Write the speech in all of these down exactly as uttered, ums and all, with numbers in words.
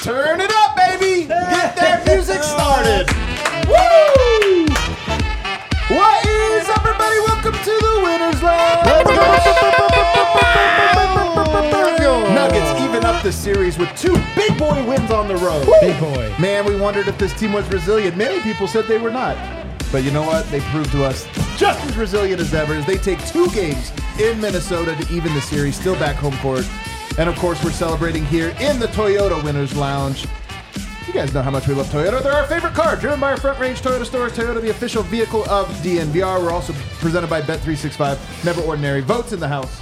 Turn it up, baby! Get that music started! Woo! What is up, everybody? Welcome to the Winners Lounge! Nuggets even up the series with two big boy wins on the road. Woo! Big boy. Man, we wondered if this team was resilient. Many people said they were not. But you know what? They proved to us just as resilient as ever as they take two games in Minnesota to even the series, still back home court. And of course, we're celebrating here in the Toyota Winners Lounge. You guys know how much we love Toyota. They're our favorite car, driven by our Front Range Toyota stores. Toyota, the official vehicle of D N V R. We're also presented by Bet three sixty-five. Never ordinary. Votes in the house.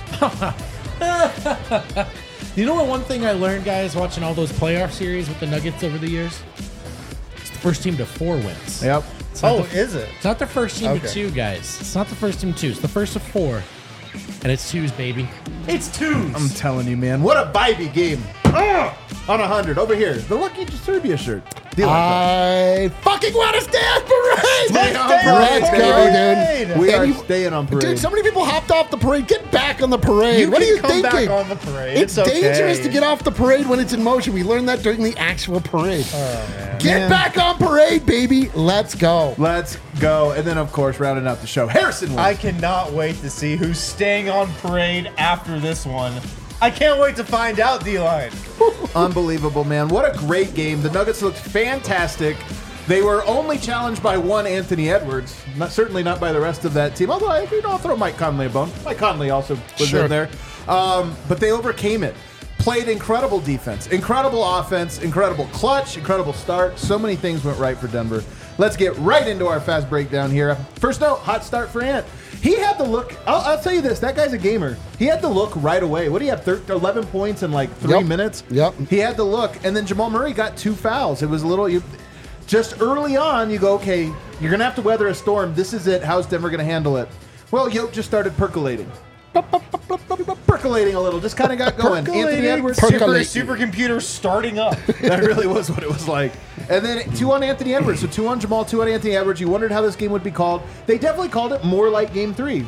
You know what? One thing I learned, guys, watching all those playoff series with the Nuggets over the years, it's the first team to four wins. Yep. It's not Oh, the, is it? It's not the first team Okay. to two, guys. It's not the first team to two. It's the first of four, and it's twos, baby. It's twos. I'm telling you, man. What a vibey game. Ugh! On one hundred. Over here. The Lucky Serbia shirt. Do you like that? I fucking want to stay on parade. Stay on Let's parade, Let's baby. go, dude. We And are you- staying on parade. Dude, so many people hopped off the parade. Get back on the parade. You what can are you come thinking? back on the parade. It's, It's okay. dangerous to get off the parade when it's in motion. We learned that during the actual parade. Oh, man. Get Man. back on parade, baby. Let's go. Let's go. And then, of course, rounding out the show, Harrison wins. I cannot wait to see who's staying on parade after this one. I can't wait to find out, D-Line. Unbelievable, man. What a great game. The Nuggets looked fantastic. They were only challenged by one Anthony Edwards. Not, certainly not by the rest of that team. Although, I, you know, I'll throw Mike Conley a bone. Mike Conley also was Sure. in there. Um, but they overcame it. Played incredible defense, incredible offense, incredible clutch, incredible start. So many things went right for Denver. Let's get right into our fast breakdown here. First note, hot start for Ant. He had the look. I'll, I'll tell you this. That guy's a gamer. He had the look right away. What do you have? thirteen, eleven points in like three Yep. minutes? Yep. He had the look. And then Jamal Murray got two fouls. It was a little... You, just early on, you go, okay, you're going to have to weather a storm. This is it. How's Denver going to handle it? Well, Yoke just started percolating. Percolating a little. Just kind of got going. Anthony Edwards. Super, Percolate. supercomputer starting up. That really was what it was like. And then two on Anthony Edwards. So two on Jamal, two on Anthony Edwards. You wondered how this game would be called. They definitely called it more like game three.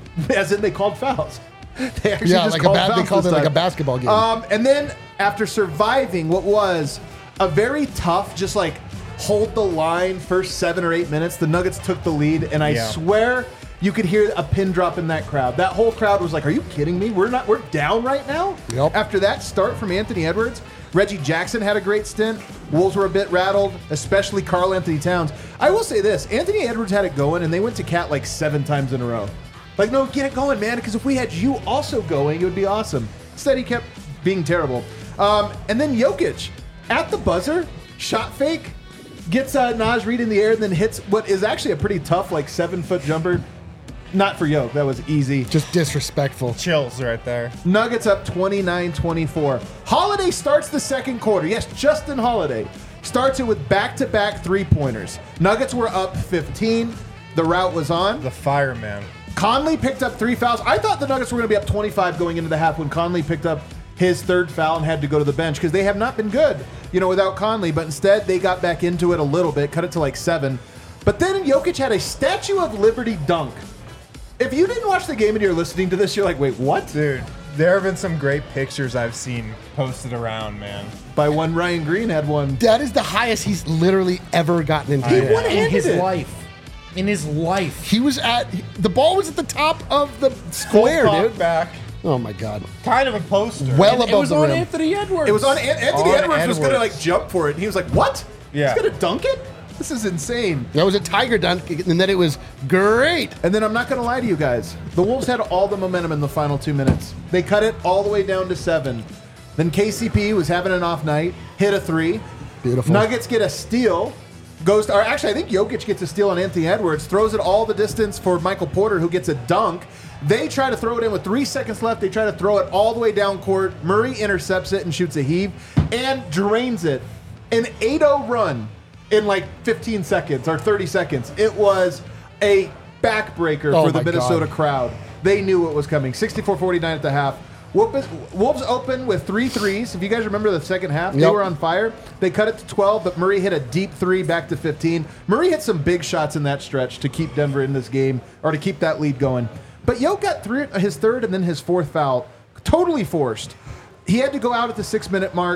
As in they called fouls. They actually Yeah, just like a called ba- they fouls called this it like time. a basketball game. Um, and then after surviving what was a very tough, just like hold the line first seven or eight minutes, the Nuggets took the lead. And I Yeah. swear you could hear a pin drop in that crowd. That whole crowd was like, are you kidding me? We're not, we're down right now? Yep. After that start from Anthony Edwards, Reggie Jackson had a great stint. Wolves were a bit rattled, especially Karl Anthony Towns. I will say this, Anthony Edwards had it going, and they went to Cat like seven times in a row. Like, no, get it going, man, because if we had you also going, it would be awesome. Instead, he kept being terrible. Um, and then Jokic, at the buzzer, shot fake, gets uh, Naj Reid in the air, and then hits what is actually a pretty tough, like, seven-foot jumper. Not for Yoke. That was easy. Just disrespectful. Chills right there. Nuggets up twenty-nine twenty-four. Holiday starts the second quarter. Yes, Justin Holiday starts it with back-to-back three-pointers. Nuggets were up fifteen. The route was on. The fireman. Conley picked up three fouls. I thought the Nuggets were going to be up twenty-five going into the half when Conley picked up his third foul and had to go to the bench because they have not been good, you know, without Conley. But instead, they got back into it a little bit, cut it to like seven. But then Jokic had a Statue of Liberty dunk. If you didn't watch the game and you're listening to this, you're like, wait, what? Dude, there have been some great pictures I've seen posted around, man. By one, Ryan Green had one. That is the highest he's literally ever gotten into. He it. won In his it. life. In his life. He was at the ball was at the top of the square, Full dude. pop back. Oh my god. Kind of a poster. Well And it above was the on rim. Anthony Edwards. It was on An- Anthony On Edwards was going to Edwards. like jump for it. And he was like, what? Yeah. He's going to dunk it? This is insane. That was a tiger dunk, and then it was great. And then I'm not going to lie to you guys. The Wolves had all the momentum in the final two minutes. They cut it all the way down to seven. Then K C P was having an off night, hit a three. Beautiful. Nuggets get a steal. Goes to, or actually, I think Jokic gets a steal on Anthony Edwards, throws it all the distance for Michael Porter, who gets a dunk. They try to throw it in with three seconds left. They try to throw it all the way down court. Murray intercepts it and shoots a heave and drains it. An eight oh run in like fifteen seconds or thirty seconds. It was a backbreaker Oh for the my Minnesota God. crowd. They knew it was coming. sixty-four forty-nine at the half. Wolves Wolves open with three threes. If you guys remember the second half, they Yep. were on fire. They cut it to twelve, but Murray hit a deep three back to fifteen. Murray hit some big shots in that stretch to keep Denver in this game, or to keep that lead going. But Yo got three, his third and then his fourth foul, totally forced. He had to go out at the six-minute mark.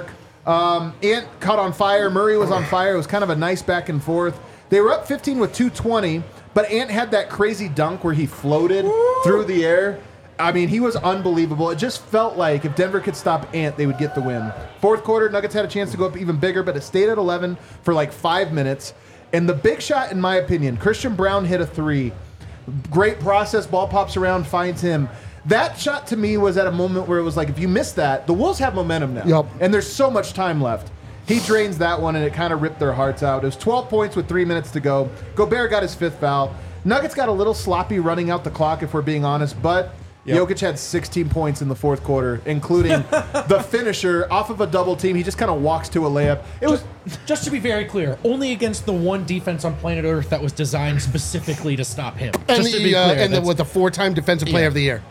Um, Ant caught on fire. Murray was on fire. It was kind of a nice back and forth. They were up fifteen with two twenty, but Ant had that crazy dunk where he floated Woo! through the air. I mean, he was unbelievable. It just felt like if Denver could stop Ant, they would get the win. Fourth quarter, Nuggets had a chance to go up even bigger, but it stayed at eleven for like five minutes. And the big shot, in my opinion, Christian Brown hit a three. Great process, ball pops around, finds him. That shot to me was at a moment where it was like, if you miss that, the Wolves have momentum now. Yep. And there's so much time left. He drains that one, and it kind of ripped their hearts out. It was twelve points with three minutes to go. Gobert got his fifth foul. Nuggets got a little sloppy running out the clock, if we're being honest, but yep. Jokic had sixteen points in the fourth quarter, including the finisher off of a double team. He just kind of walks to a layup. It was just, just to be very clear, only against the one defense on planet Earth that was designed specifically to stop him. And, just the, to be uh, clear, and the, with the four-time defensive player Yeah. of the year.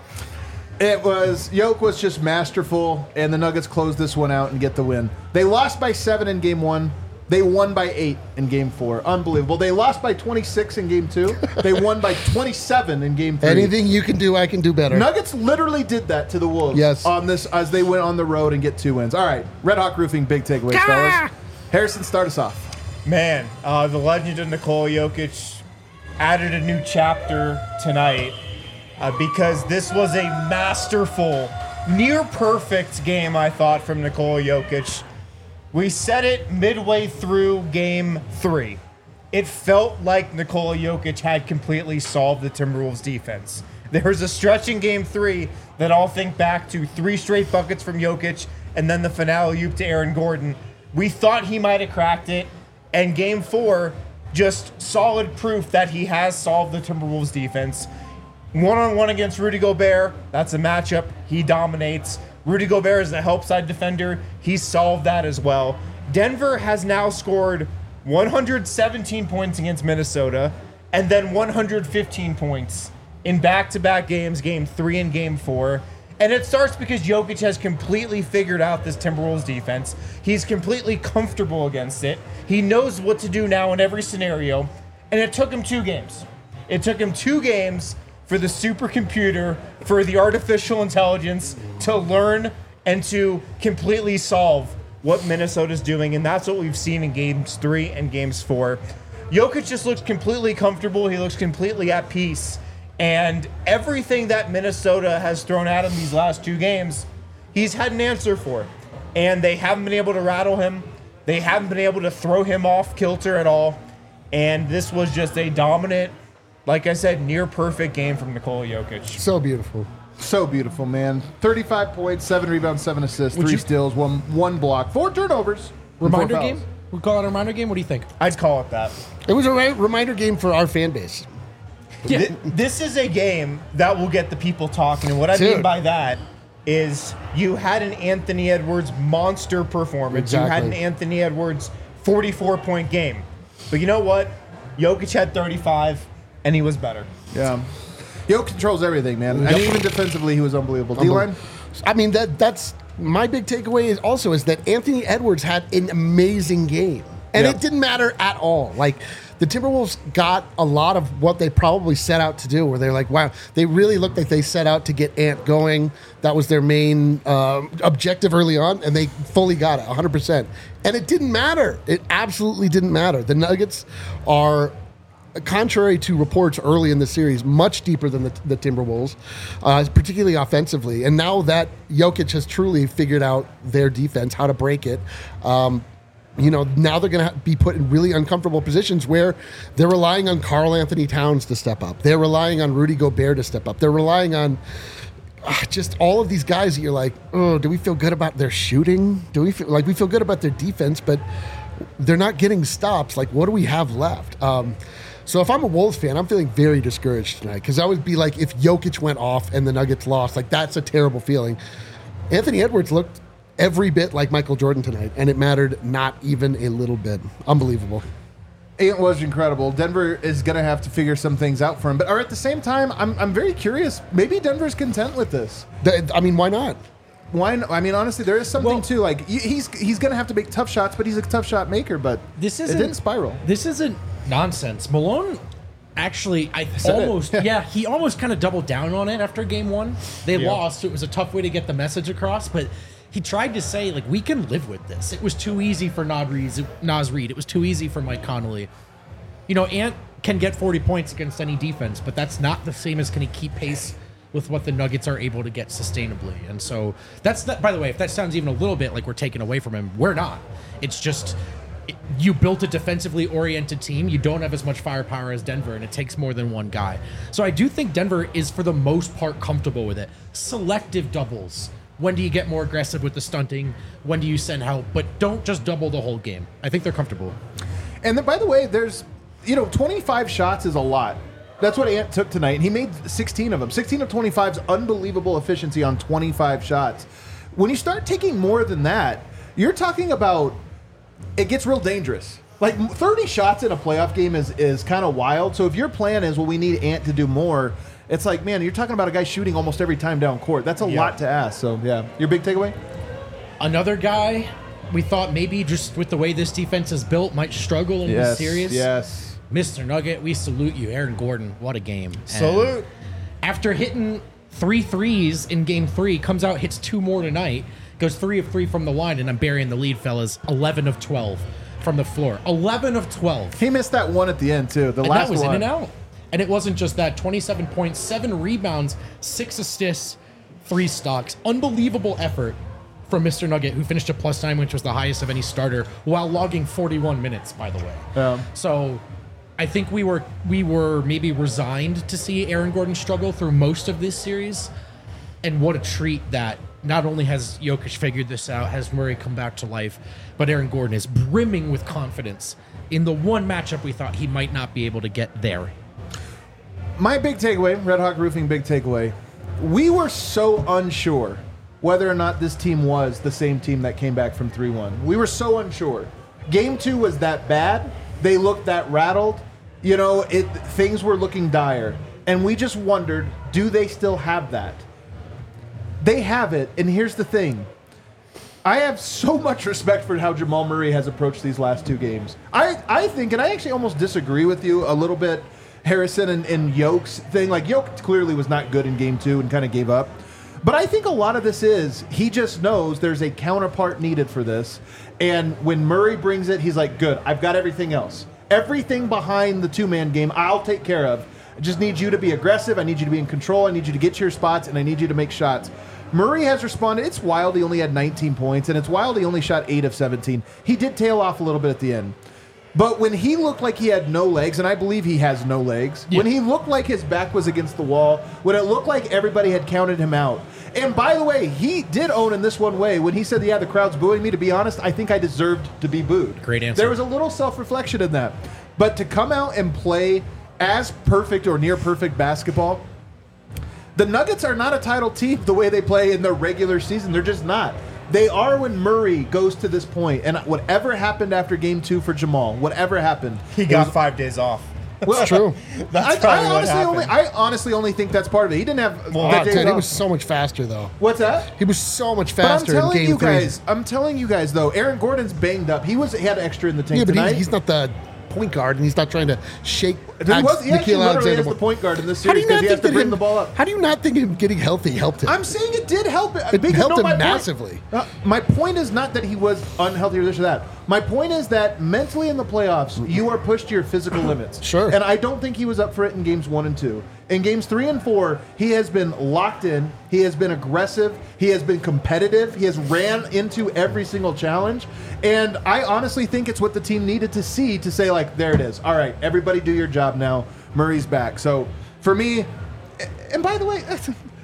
It was, Jokic was just masterful, and the Nuggets closed this one out and get the win. They lost by seven in game one. They won by eight in game four. Unbelievable. They lost by twenty-six in game two. They won by twenty-seven in game three. Anything you can do, I can do better. Nuggets literally did that to the Wolves Yes. on this as they went on the road and get two wins. All right, Red Hawk Roofing, big takeaways, fellas. Harrison, start us off. Man, uh, the legend of Nikola Jokic added a new chapter tonight uh, because this was a masterful, near-perfect game, I thought, from Nikola Jokic. We said it midway through game three. It felt like Nikola Jokic had completely solved the Timberwolves defense. There was a stretch in game three that I'll think back to three straight buckets from Jokic and then the finale oop to Aaron Gordon. We thought he might have cracked it. And game four, just solid proof that he has solved the Timberwolves defense. One-on-one against Rudy Gobert, that's a matchup. He dominates. Rudy Gobert is a help side defender. He solved that as well. Denver has now scored one hundred seventeen points against Minnesota and then one hundred fifteen points in back-to-back games, game three and game four. And it starts because Jokic has completely figured out this Timberwolves defense. He's completely comfortable against it. He knows what to do now in every scenario. And it took him two games. It took him two games for the supercomputer, for the artificial intelligence to learn and to completely solve what Minnesota's doing. And that's what we've seen in games three and games four. Jokic just looks completely comfortable. He looks completely at peace. And everything that Minnesota has thrown at him these last two games, he's had an answer for. And they haven't been able to rattle him. They haven't been able to throw him off kilter at all. And this was just a dominant, like I said, near perfect game from Nikola Jokic. So beautiful. So beautiful, man. thirty-five points, seven rebounds, seven assists, Would three you- steals, one one block, four turnovers. and four Reminder fouls. game? We call it a reminder game? What do you think? I'd call it that. It was a re- reminder game for our fan base. Yeah. Th- This is a game that will get the people talking. And what I mean Dude. by that is you had an Anthony Edwards monster performance. You had an Exactly. Anthony Edwards forty-four point game. But you know what? Jokic had thirty-five, and he was better. Yeah. Jokic controls everything, man. And even defensively, he was unbelievable. D-line? I mean, that that's my big takeaway is also is that Anthony Edwards had an amazing game. And Yep. it didn't matter at all. Like, the Timberwolves got a lot of what they probably set out to do, where they're like, wow, they really looked like they set out to get Ant going. That was their main um, objective early on, and they fully got it, one hundred percent. And it didn't matter. It absolutely didn't matter. The Nuggets are, contrary to reports early in the series, much deeper than the, the Timberwolves, uh, particularly offensively. And now that Jokic has truly figured out their defense, how to break it, um, you know, now they're going to be put in really uncomfortable positions where they're relying on Karl Anthony Towns to step up. They're relying on Rudy Gobert to step up. They're relying on uh, just all of these guys that you're like, oh, do we feel good about their shooting? Do we feel like we feel good about their defense, but they're not getting stops? Like, what do we have left? Um, so if I'm a Wolves fan, I'm feeling very discouraged tonight because I would be like, if Jokic went off and the Nuggets lost, like that's a terrible feeling. Anthony Edwards looked every bit like Michael Jordan tonight, and it mattered not even a little bit. Unbelievable. It was incredible. Denver is going to have to figure some things out for him. But or at the same time, I'm, I'm very curious. Maybe Denver's content with this. The- I mean, why not? Why? n- I mean, honestly, there is something Well- too. Like y- he's he's going to have to make tough shots, but he's a tough shot maker. But This it isn't didn't spiral. This isn't nonsense. Malone actually, I Said it. almost, yeah, he almost kind of doubled down on it after game one. They Yeah. lost, so it was a tough way to get the message across. But he tried to say, like, we can live with this. It was too easy for Naz Reid. Naz Reid. It was too easy for Mike Connolly. You know, Ant can get forty points against any defense, but that's not the same as can he keep pace with what the Nuggets are able to get sustainably. And so that's not, by the way, if that sounds even a little bit like we're taking away from him, we're not. It's just it, you built a defensively oriented team. You don't have as much firepower as Denver, and it takes more than one guy. So I do think Denver is, for the most part, comfortable with it. Selective doubles. When do you get more aggressive with the stunting? When do you send help? But don't just double the whole game. I think they're comfortable. And then, by the way, there's, you know, twenty-five shots is a lot. That's what Ant took tonight, and he made sixteen of them. sixteen of twenty-five is unbelievable efficiency on twenty-five shots. When you start taking more than that, you're talking about it gets real dangerous. Like thirty shots in a playoff game is, is kind of wild. So if your plan is, well, we need Ant to do more, it's like, man, you're talking about a guy shooting almost every time down court. That's a Yeah. lot to ask. So, yeah. Your big takeaway? Another guy we thought maybe just with the way this defense is built might struggle in this series. Yes. Mister Nugget, we salute you. Aaron Gordon, what a game. And Salute. after hitting three threes in game three, comes out, hits two more tonight, goes three of three from the line, and I'm burying the lead, fellas. eleven of twelve from the floor. eleven of twelve. He missed that one at the end, too. The And last that was one. in and out. And it wasn't just that. twenty-seven points, seven rebounds, six assists, three stocks. Unbelievable effort from Mister Nugget, who finished a plus nine, which was the highest of any starter, while logging forty-one minutes, by the way. Yeah. So I think we were we were maybe resigned to see Aaron Gordon struggle through most of this series. And what a treat that not only has Jokic figured this out, has Murray come back to life, but Aaron Gordon is brimming with confidence in the one matchup we thought he might not be able to get there. My big takeaway, Red Hawk Roofing big takeaway, we were so unsure whether or not this team was the same team that came back from three one. We were so unsure. Game two was that bad. They looked that rattled. You know, it things were looking dire. And we just wondered, do they still have that? They have it, and here's the thing. I have so much respect for how Jamal Murray has approached these last two games. I, I think, and I actually almost disagree with you a little bit, Harrison and, and Yoke's thing. Like, Yoke clearly was not good in game two and kind of gave up. But I think a lot of this is he just knows there's a counterpart needed for this. And when Murray brings it, he's like, good, I've got everything else. Everything behind the two-man game, I'll take care of. I just need you to be aggressive. I need you to be in control. I need you to get to your spots, and I need you to make shots. Murray has responded. It's wild he only had nineteen points, and it's wild he only shot eight of seventeen. He did tail off a little bit at the end. But when he looked like he had no legs, and I believe he has no legs, Yeah. when he looked like his back was against the wall, when it looked like everybody had counted him out. And by the way, he did own in this one way. When he said, yeah, the crowd's booing me, to be honest, I think I deserved to be booed. Great answer. There was a little self-reflection in that. But to come out and play as perfect or near perfect basketball, the Nuggets are not a title team the way they play in the regular season. They're just not. They are when Murray goes to this point. And whatever happened after game two for Jamal, whatever happened. He it got was- five days off. well, It's true. That's I, probably I what honestly happened. only I honestly only think that's part of it. He didn't have Well, the Oh, days dude, he off. was so much faster, though. What's that? He was so much But I'm faster in telling game you three. guys, I'm telling you guys though, Aaron Gordon's banged up. He was he had extra in the tank Yeah, but tonight. he's, he's not the point guard, and he's not trying to shake he, was, he actually Nickeil literally Alexander. is the point guard in this How do series you because not he has think to that bring him, the ball up. How do you not think him getting healthy helped him? I'm saying it did help. It Because- helped him my point- massively. uh, my point is not that he was unhealthy or this or that. My point is that mentally in the playoffs, you are pushed to your physical limits. Sure. And I don't think he was up for it in games one and two. In games three and four, he has been locked in. He has been aggressive. He has been competitive. He has ran into every single challenge. And I honestly think it's what the team needed to see to say, like, there it is. All right, everybody do your job now. Murray's back. So for me, and by the way,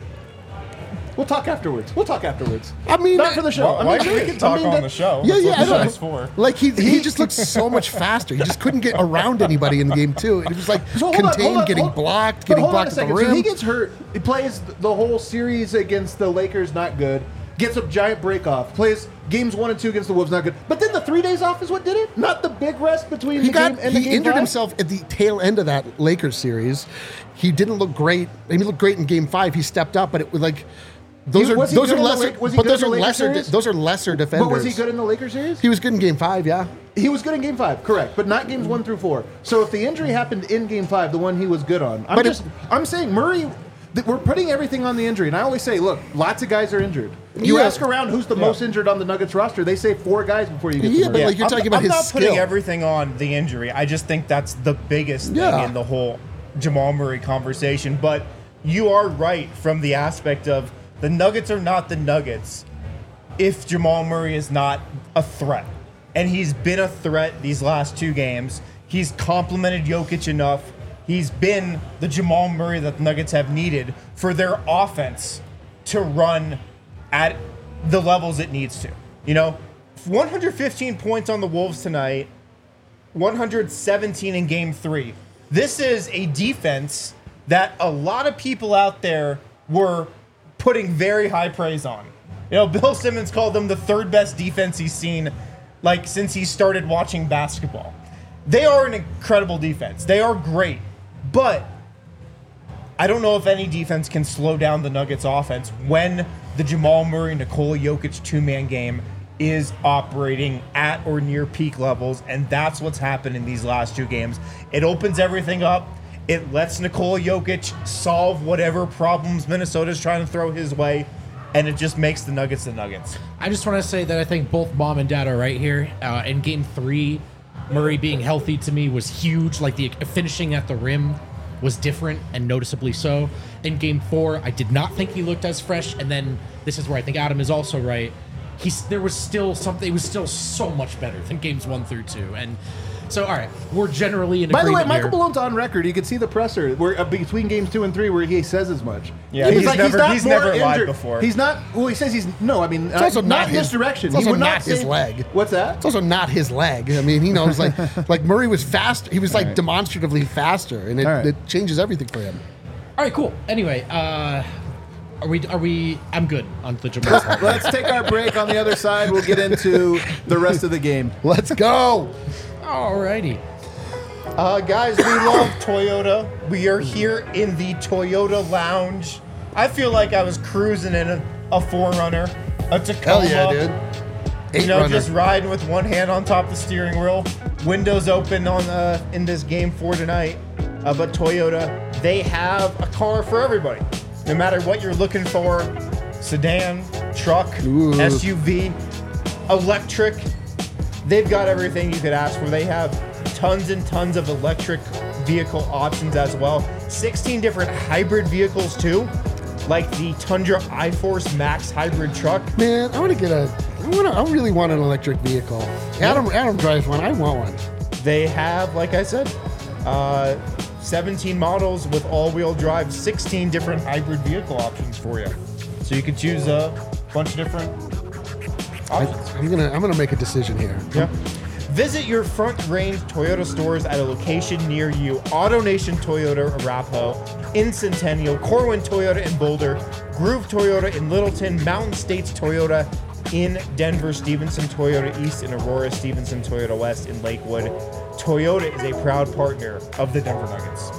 we'll talk afterwards. We'll talk afterwards. I mean, not for the show. Well, I why mean, should we we can can talk I mean, on that- the show? Yeah, That's yeah, what I the know. show's for. Like he, he just looked so much faster. He just couldn't get around anybody in game two. It was like So hold on, contained, hold on, getting hold- blocked, but getting hold on blocked a at the second. So he rim. gets hurt. He plays the whole series against the Lakers, not good. Gets a giant break off. Plays games one and two against the Wolves, not good. But then the three days off is what did it. Not the big rest between He the got game and the he game injured five? himself at the tail end of that Lakers series. He didn't look great. He looked great in game five. He stepped up, but it was like those He- are was he those good are in the lesser. Lak- was he But good those in are the Lakers lesser. de- series? those are lesser defenders. But was he good in the Lakers series? He was good in game five. Yeah. He was good in game five, correct, but not games one through four. So if the injury happened in game five, the one he was good on, I'm But just if- I'm saying Murray th- we're putting everything on the injury. And I always say, look, lots of guys are injured. You Yeah. ask around who's the Yeah. most injured on the Nuggets roster, they say four guys before you get Yeah, to but Murray. like you're I'm, talking about I'm his not putting skill. everything on the injury. I just think that's the biggest Yeah. thing in the whole Jamal Murray conversation. But you are right from the aspect of the Nuggets are not the Nuggets if Jamal Murray is not a threat. And he's been a threat these last two games. He's complimented Jokic enough. He's been the Jamal Murray that the Nuggets have needed for their offense to run at the levels it needs to. You know, one hundred fifteen points on the Wolves tonight, one hundred seventeen in game three. This is a defense that a lot of people out there were putting very high praise on. You know, Bill Simmons called them the third best defense he's seen, like, since he started watching basketball. They are an incredible defense. They are great. But I don't know if any defense can slow down the Nuggets offense when the Jamal Murray, Nikola Jokic two-man game is operating at or near peak levels, and that's what's happened in these last two games. It opens everything up. It lets Nikola Jokic solve whatever problems Minnesota's trying to throw his way, and it just makes the Nuggets the Nuggets. I just want to say that I think both mom and dad are right here. Uh, in game three, Murray being healthy to me was huge. Like the finishing at the rim was different and noticeably so. In game four, I did not think he looked as fresh. And then this is where I think Adam is also right. He's there was still something. It was still so much better than games one through two. And so, all right, we're generally in By the way, agreement Michael here. Malone's on record. You can see the presser where uh, between games two and three where he says as much. Yeah, he's never- he's more never lied injured. also He's not. Well, he says he's no. I mean, It's also uh, not in this his- direction. it's He also would not his say- leg. What's that? It's also not his leg. I mean, he knows like like Murray was fast. He was like right. demonstratively faster, and it, All right. it changes everything for him. All right, cool. Anyway, uh, are we? Are we? I'm good on the Jamal. part. Let's take our break. On the other side, we'll get into the rest of the game. Let's go. Alrighty. Uh, guys, we love Toyota. We are here in the Toyota Lounge. I feel like I was cruising in a, a four runner, a Tacoma. Hell yeah, dude. Eight You know, runner. just riding with one hand on top of the steering wheel. Windows open on uh, in this game for tonight. Uh, but Toyota, they have a car for everybody. No matter what you're looking for, sedan, truck, Ooh. S U V, electric, they've got everything you could ask for. They have tons and tons of electric vehicle options as well. sixteen different hybrid vehicles too, like the Tundra iForce Max hybrid truck. Man, I want to get a. I want. I really want an electric vehicle. Adam. Adam drives one. I want one. They have, like I said, uh, seventeen models with all-wheel drive, sixteen different hybrid vehicle options for you. So you can choose a bunch of different I, options. I'm gonna. I'm gonna make a decision here. Yeah. Visit your Front Range Toyota stores at a location near you. AutoNation Toyota Arapahoe, in Centennial, Corwin Toyota in Boulder, Groove Toyota in Littleton, Mountain States Toyota in Denver, Stevenson Toyota East in Aurora, Stevenson Toyota West in Lakewood. Toyota is a proud partner of the Denver Nuggets.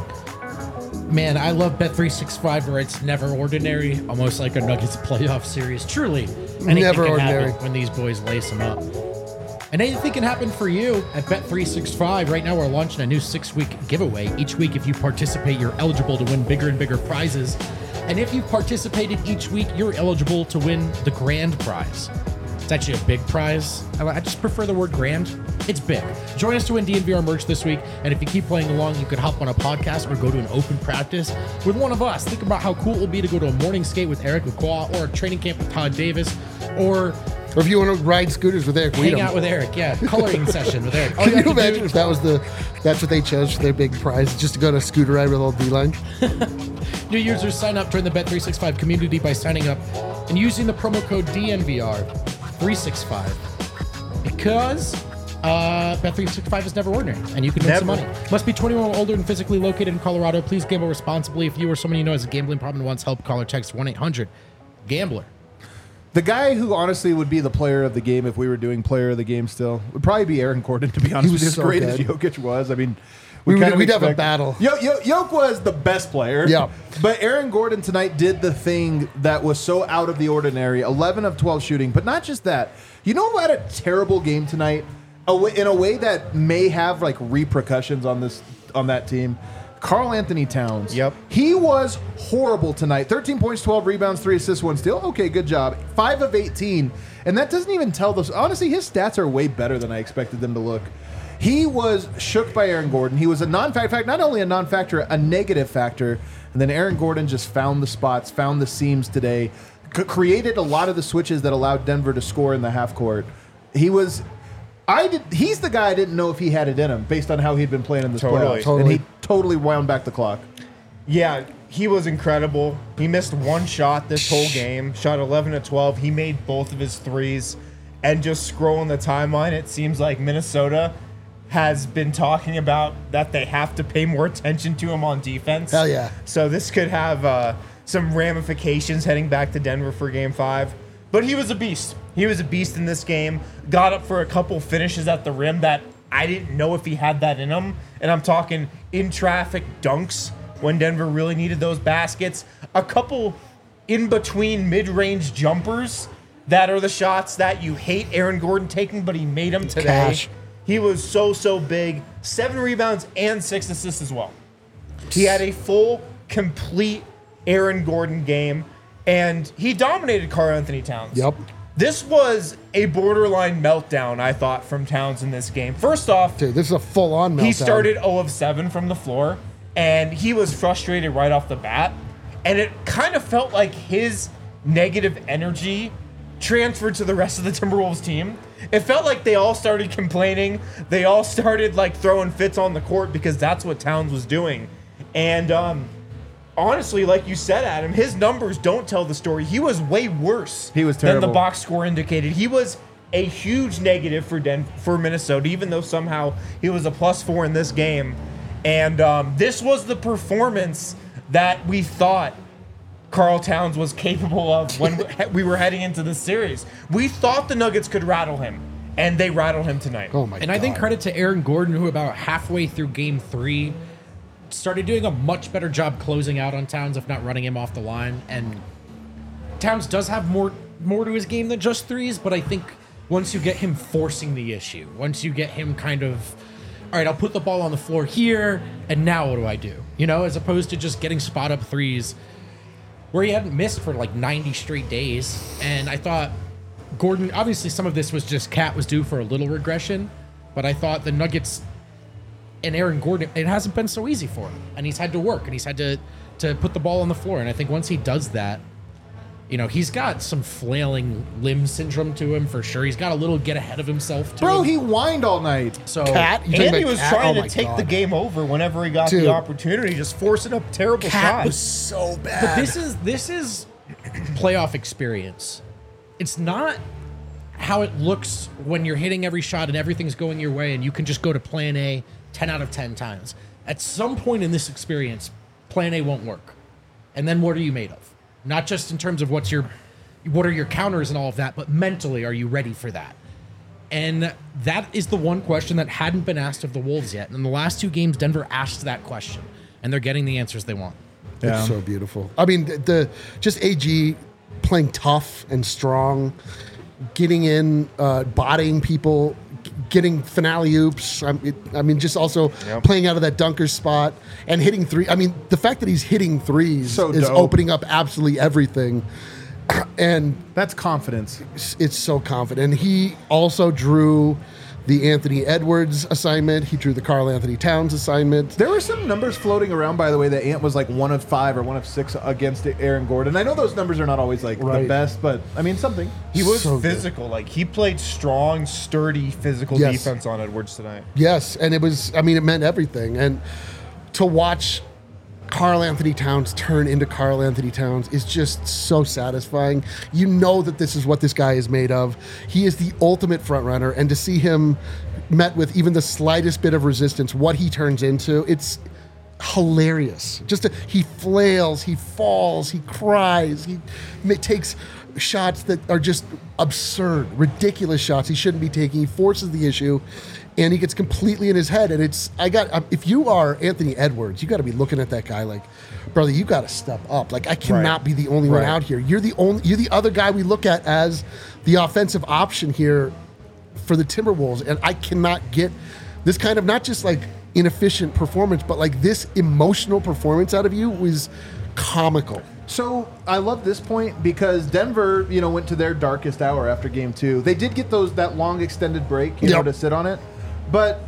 Man, I love Bet three sixty-five where it's never ordinary, almost like a Nuggets playoff series. Truly, anything Never can ordinary. happen when these boys lace them up. And anything can happen for you at Bet three sixty-five. Right now, we're launching a new six-week giveaway. Each week, if you participate, you're eligible to win bigger and bigger prizes. And if you've participated each week, you're eligible to win the grand prize. It's actually a big prize. I I just prefer the word grand. It's big. Join us to win D N V R merch this week. And if you keep playing along, you could hop on a podcast or go to an open practice with one of us. Think about how cool it will be to go to a morning skate with Eric Lacroix or a training camp with Todd Davis or Or if you want to ride scooters with Eric, hang Weedham. out with Eric. Yeah, coloring session with Eric. All Can have you to do- imagine if that was the that's what they chose for their big prize, just to go on a scooter ride with old D-Line? New users sign up during the Bet three sixty-five community by signing up and using the promo code D N V R three sixty-five because uh, Bet three sixty-five is never ordinary and you can win some Never. money. Must be twenty-one or older and physically located in Colorado. Please gamble responsibly. If you or someone you know has a gambling problem and wants help, call or text one eight hundred gambler. The guy who honestly would be the player of the game if we were doing player of the game still would probably be Aaron Gordon, to be honest was with you. As so great good. as Jokic was. I mean, We would- kind of we'd have a expect- battle. Yo, Yo, Jokic was the best player. Yeah. But Aaron Gordon tonight did the thing that was so out of the ordinary. eleven of twelve shooting. But not just that. You know who had a terrible game tonight? A way, in a way that may have like repercussions on this on that team? Karl Anthony Towns. Yep. He was horrible tonight. thirteen points, twelve rebounds, three assists, one steal. Okay, good job. five of eighteen. And that doesn't even tell those. Honestly, his stats are way better than I expected them to look. He was shook by Aaron Gordon. He was a non-factor, fact, not only a non-factor, a negative factor. And then Aaron Gordon just found the spots, found the seams today, c- created a lot of the switches that allowed Denver to score in the half court. He was, I did. He's the guy I didn't know if he had it in him based on how he'd been playing in this Totally. playoffs, Totally. and he totally wound back the clock. Yeah, he was incredible. He missed one shot this whole game. Shot eleven to twelve. He made both of his threes. And just scrolling the timeline, it seems like Minnesota has been talking about that they have to pay more attention to him on defense. Hell yeah. So this could have uh, some ramifications heading back to Denver for game five. But he was a beast. He was a beast in this game. Got up for a couple finishes at the rim that I didn't know if he had that in him. And I'm talking in traffic dunks when Denver really needed those baskets. A couple in between mid-range jumpers that are the shots that you hate Aaron Gordon taking, but he made them today. Cash. He was so, so big. Seven rebounds and six assists as well. He had a full, complete Aaron Gordon game, and he dominated Karl Anthony Towns. Yep. This was a borderline meltdown, I thought, from Towns in this game. First off, Dude, this is a full-on meltdown. he started zero of seven from the floor, and he was frustrated right off the bat. And it kind of felt like his negative energy transferred to the rest of the Timberwolves team. It felt like they all started complaining. They all started like throwing fits on the court because that's what Towns was doing. And um, honestly, like you said, Adam, his numbers don't tell the story. He was way worse He was than the terrible. box score indicated. He was a huge negative for Den- for Minnesota, even though somehow he was a plus four in this game. And um, this was the performance that we thought Karl Towns was capable of when we were heading into this series. We thought the Nuggets could rattle him, and they rattled him tonight. Oh my god. And I think credit to Aaron Gordon, who about halfway through game three started doing a much better job closing out on Towns, if not running him off the line. And Towns does have more more to his game than just threes, but I think once you get him forcing the issue, once you get him kind of, all right, I'll put the ball on the floor here, and now what do I do? You know, as opposed to just getting spot up threes where he hadn't missed for like ninety straight days. And I thought Gordon, obviously some of this was just Cat was due for a little regression, but I thought the Nuggets and Aaron Gordon, it hasn't been so easy for him. And he's had to work, and he's had to, to put the ball on the floor. And I think once he does that, you know, he's got some flailing limb syndrome to him for sure. He's got a little get ahead of himself to Bro, him. he whined all night. So Cat? You talking And he about was Cat? trying Oh to my take God. the game over whenever he got Dude. the opportunity, just forcing up terrible Cat shots. was so bad. But this is this is playoff experience. It's not how it looks when you're hitting every shot and everything's going your way and you can just go to plan A ten out of ten times. At some point in this experience, plan A won't work. And then what are you made of? Not just in terms of what's your what are your counters and all of that, but mentally, are you ready for that? And that is the one question that hadn't been asked of the Wolves yet. And in the last two games, Denver asked that question, and they're getting the answers they want. It's so beautiful. I mean, the, the just A G playing tough and strong, getting in, uh, bodying people, g- getting finale oops. I mean, I mean, just also Yep. playing out of that dunker spot and hitting three. I mean, the fact that he's hitting threes So is dope. opening up absolutely everything. And That's confidence. it's, it's so confident. And he also drew the Anthony Edwards assignment. He drew the Karl Anthony Towns assignment. There were some numbers floating around, by the way, that Ant was like one of five or one of six against Aaron Gordon. I know those numbers are not always like the Right. best, but I mean something. He was So good. physical. Like, he played strong, sturdy, physical Yes. defense on Edwards tonight. Yes, and it was, I mean, it meant everything. And to watch Karl Anthony Towns turn into Karl Anthony Towns is just so satisfying. You know that this is what this guy is made of. He is the ultimate front runner, and to see him met with even the slightest bit of resistance, what he turns into, it's hilarious. Just to, he flails, he falls, he cries, he ma- takes shots that are just absurd, ridiculous shots he shouldn't be taking. He forces the issue, and he gets completely in his head. And it's, I got, um, if you are Anthony Edwards, you got to be looking at that guy like, brother, you got to step up. Like, I cannot Right. be the only one Right. out here. You're the only, you're the other guy we look at as the offensive option here for the Timberwolves. And I cannot get this kind of, not just like inefficient performance, but like this emotional performance out of you was comical. So I love this point because Denver, you know, went to their darkest hour after game two. They did get those that long extended break, you Yep. know, to sit on it, but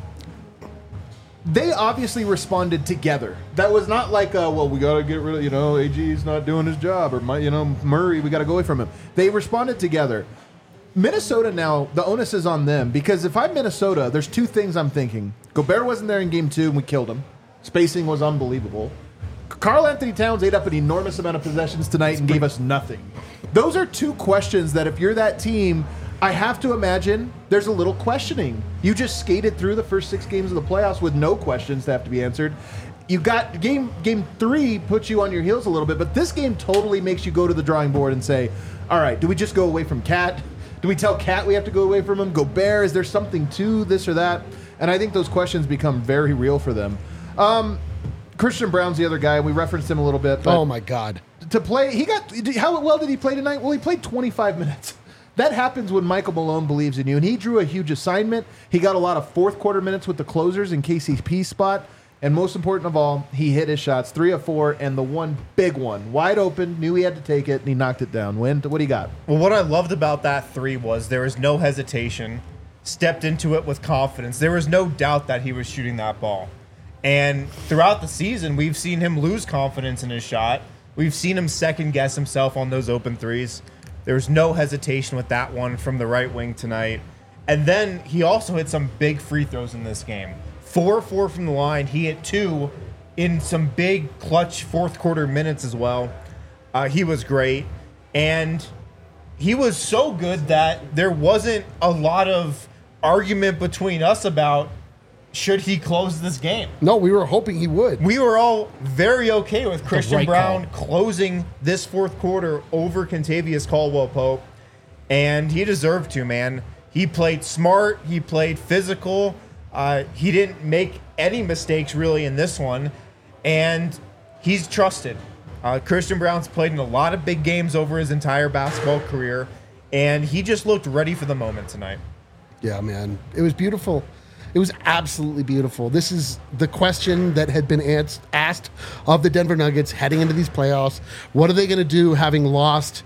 they obviously responded together. That was not like, uh, well, we got to get rid of, you know, A G's not doing his job, or my, you know, Murray, we got to go away from him. They responded together. Minnesota now, the onus is on them because if I'm Minnesota, there's two things I'm thinking. Gobert wasn't there in game two and we killed him. Spacing was unbelievable. Karl Anthony Towns ate up an enormous amount of possessions tonight and gave us nothing. Those are two questions that if you're that team, I have to imagine there's a little questioning. You just skated through the first six games of the playoffs with no questions to have to be answered. You got game game three puts you on your heels a little bit, but this game totally makes you go to the drawing board and say, all right, do we just go away from Cat? Do we tell Cat we have to go away from him? Gobert, is there something to this or that? And I think those questions become very real for them. Um, Christian Brown's the other guy. We referenced him a little bit. But Oh my God. to play, he got, how well did he play tonight? Well, he played twenty-five minutes. That happens when Michael Malone believes in you, and he drew a huge assignment. He got a lot of fourth quarter minutes with the closers in K C P's spot, and most important of all, he hit his shots, three of four, and the one big one, wide open, knew he had to take it, and he knocked it down. Win, what do you got? Well, what I loved about that three was there was no hesitation, stepped into it with confidence. There was no doubt that he was shooting that ball. And throughout the season, we've seen him lose confidence in his shot. We've seen him second guess himself on those open threes. There was no hesitation with that one from the right wing tonight. And then he also hit some big free throws in this game. Four four from the line. He hit two in some big clutch fourth quarter minutes as well. Uh, he was great. And he was so good that there wasn't a lot of argument between us about should he close this game. No, we were hoping he would. We were all very okay with Christian right Brown call. closing this fourth quarter over Kentavious Caldwell-Pope, and he deserved to, man. He played smart. He played physical. Uh, he didn't make any mistakes, really, in this one, and he's trusted. Uh, Christian Brown's played in a lot of big games over his entire basketball career, and he just looked ready for the moment tonight. Yeah, man. It was beautiful. It was absolutely beautiful. This is the question that had been asked, asked of the Denver Nuggets heading into these playoffs. What are they going to do having lost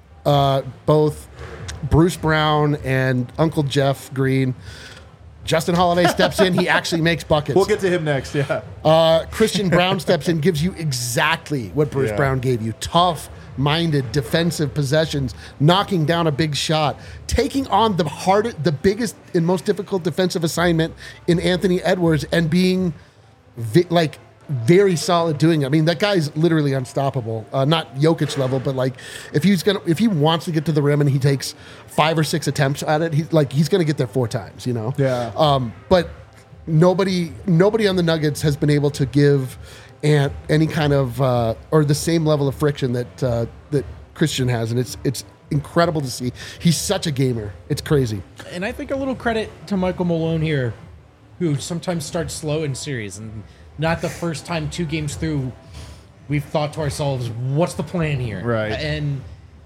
uh, both Bruce Brown and Uncle Jeff Green? Justin Holiday steps in. He actually makes buckets. We'll get to him next, yeah. Uh, Christian Brown steps in, gives you exactly what Bruce Yeah. Brown gave you. Tough-minded defensive possessions, knocking down a big shot, taking on the hardest, the biggest and most difficult defensive assignment in Anthony Edwards and being vi- like very solid doing it. I mean, that guy's literally unstoppable. Uh, not Jokic level, but like if he's gonna, if he wants to get to the rim and he takes five or six attempts at it, he's like he's gonna get there four times. You know. Yeah. Um, but nobody, nobody on the Nuggets has been able to give Ant any kind of uh, or the same level of friction that uh, that Christian has, and it's it's incredible to see. He's such a gamer. It's crazy. And I think a little credit to Michael Malone here, who sometimes starts slow in series, and not the first time two games through we've thought to ourselves, what's the plan here? Right. And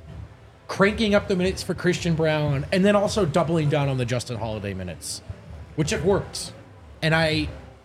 cranking up the minutes for Christian Brown, and then also doubling down on the Justin Holiday minutes, which it worked. And I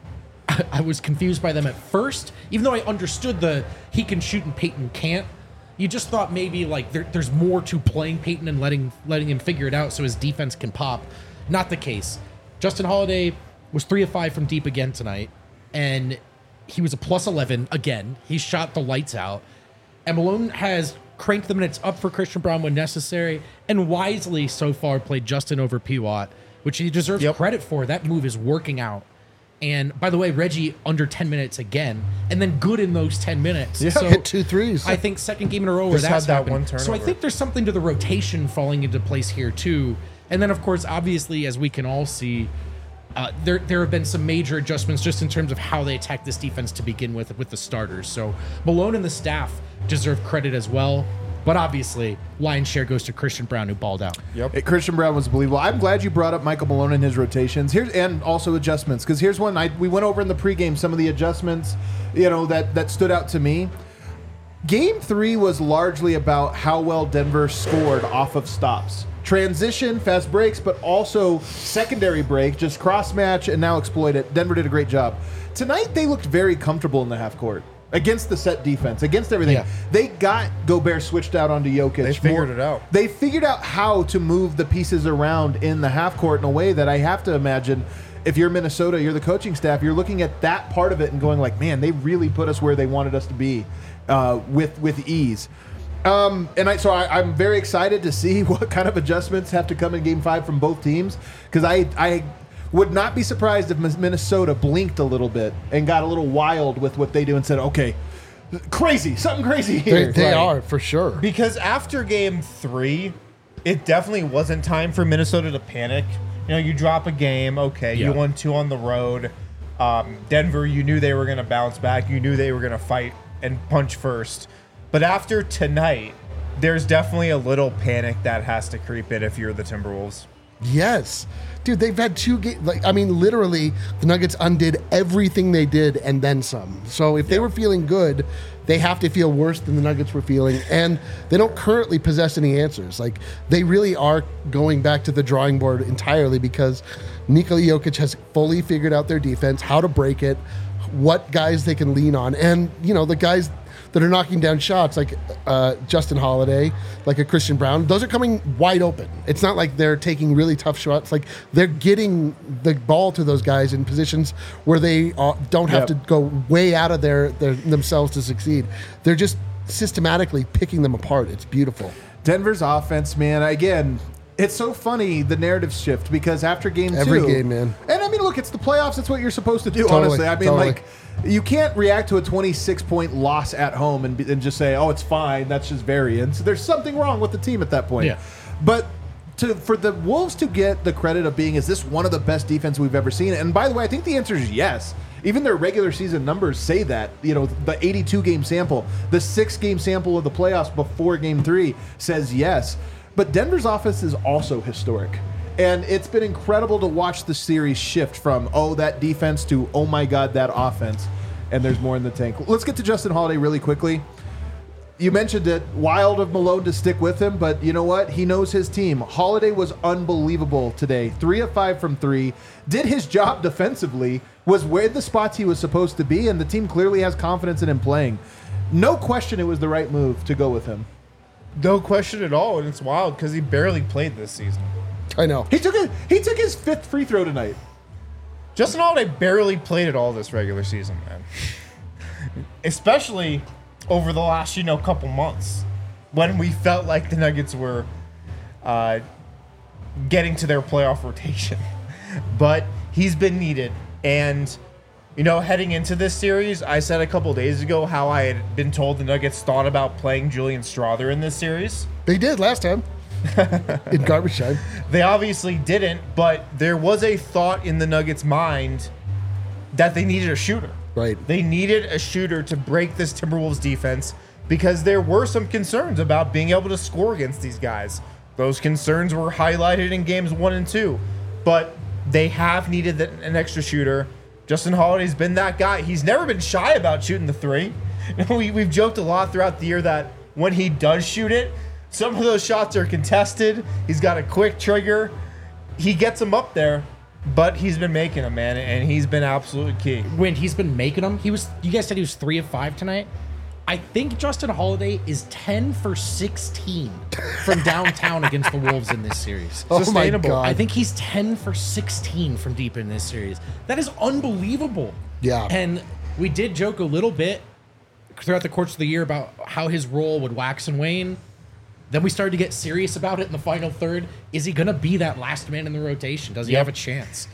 I was confused by them at first, even though I understood the he can shoot and Peyton can't. You just thought maybe like there, there's more to playing Peyton and letting letting him figure it out so his defense can pop. Not the case. Justin Holiday was three of five from deep again tonight, and he was a plus eleven again. He shot the lights out. And Malone has cranked the minutes up for Christian Brown when necessary, and wisely so far played Justin over P. Watt, which he deserves Yep. credit for. That move is working out. And by the way, Reggie under ten minutes again, and then good in those ten minutes. Yeah. So Hit two threes. I think second game in a row where Just that's had that happened. one So I turnover. think there's something to the rotation falling into place here too. And then of course, obviously, as we can all see, uh, there there have been some major adjustments just in terms of how they attack this defense to begin with with the starters. So Malone and the staff deserve credit as well. But obviously, lion's share goes to Christian Brown, who balled out. Yep. Hey, Christian Brown was believable. I'm glad you brought up Michael Malone and his rotations. Here's and also adjustments, because here's one I we went over in the pregame some of the adjustments, you know, that that stood out to me. Game three was largely about how well Denver scored off of stops. Transition, fast breaks, but also secondary break, just cross match and now exploit it. Denver did a great job. Tonight, they looked very comfortable in the half court against the set defense, against everything. Yeah. They got Gobert switched out onto Jokic. They figured it out. They figured out how to move the pieces around in the half court in a way that I have to imagine if you're Minnesota, you're the coaching staff, you're looking at that part of it and going like, man, they really put us where they wanted us to be uh, with with ease. Um, and I, so I, I'm very excited to see what kind of adjustments have to come in Game Five from both teams, because I I would not be surprised if Minnesota blinked a little bit and got a little wild with what they do and said, okay, crazy, something crazy here. They, they Right. are, for sure. Because after game three, it definitely wasn't time for Minnesota to panic. You know, you drop a game, okay, Yeah. you won two on the road. Um, Denver, you knew they were going to bounce back. You knew they were going to fight and punch first. But after tonight, there's definitely a little panic that has to creep in if you're the Timberwolves. Yes. Dude, they've had two games. Like, I mean, literally, the Nuggets undid everything they did and then some. So if they were feeling good, they have to feel worse than the Nuggets were feeling. And they don't currently possess any answers. Like, they really are going back to the drawing board entirely because Nikola Jokic has fully figured out their defense, how to break it, what guys they can lean on. And, you know, the guys that are knocking down shots, like uh, Justin Holiday, like a Christian Brown, those are coming wide open. It's not like they're taking really tough shots. Like, they're getting the ball to those guys in positions where they uh, don't have Yep. to go way out of their, their themselves to succeed. They're just systematically picking them apart. It's beautiful. Denver's offense, man, again, it's so funny, the narrative shift, because after game two... Every game, man. And I mean, look, it's the playoffs. It's what you're supposed to do, Totally, honestly. I mean, totally. like, you can't react to a twenty-six point loss at home and, be, and just say, oh, it's fine. That's just variance. There's something wrong with the team at that point. Yeah. But to for the Wolves to get the credit of being, is this one of the best defense we've ever seen? And by the way, I think the answer is yes. Even their regular season numbers say that. You know, the eighty-two game sample, the six game sample of the playoffs before game three says yes. But Denver's offense is also historic. And it's been incredible to watch the series shift from, oh, that defense to, oh my God, that offense. And there's more in the tank. Let's get to Justin Holiday really quickly. You mentioned it, wild of Malone to stick with him, but you know what? He knows his team. Holiday was unbelievable today. Three of five from three. Did his job defensively, was where the spots he was supposed to be, and the team clearly has confidence in him playing. No question it was the right move to go with him. No question at all, and it's wild because he barely played this season. I know. He took a, he took his fifth free throw tonight. Justin Holiday barely played at all this regular season, man. Especially over the last, you know, couple months when we felt like the Nuggets were uh, getting to their playoff rotation. But he's been needed. And, you know, heading into this series, I said a couple days ago how I had been told the Nuggets thought about playing Julian Strawther in this series. They did last time in garbage time. They obviously didn't, but there was a thought in the Nuggets' mind that they needed a shooter. Right. They needed a shooter to break this Timberwolves defense because there were some concerns about being able to score against these guys. Those concerns were highlighted in games one and two, but they have needed an extra shooter. Justin Holiday's been that guy. He's never been shy about shooting the three. We, we've joked a lot throughout the year that when he does shoot it, some of those shots are contested. He's got a quick trigger. He gets them up there, but he's been making them, man, and he's been absolutely key. When he's been making them, he was. You guys said he was three of five tonight. I think Justin Holiday is ten for sixteen from downtown against the Wolves in this series. Oh my Sustainable. God. I think he's ten for sixteen from deep in this series. That is unbelievable. Yeah. And we did joke a little bit throughout the course of the year about how his role would wax and wane. Then we started to get serious about it in the final third. Is he going to be that last man in the rotation? Does he Yep. have a chance?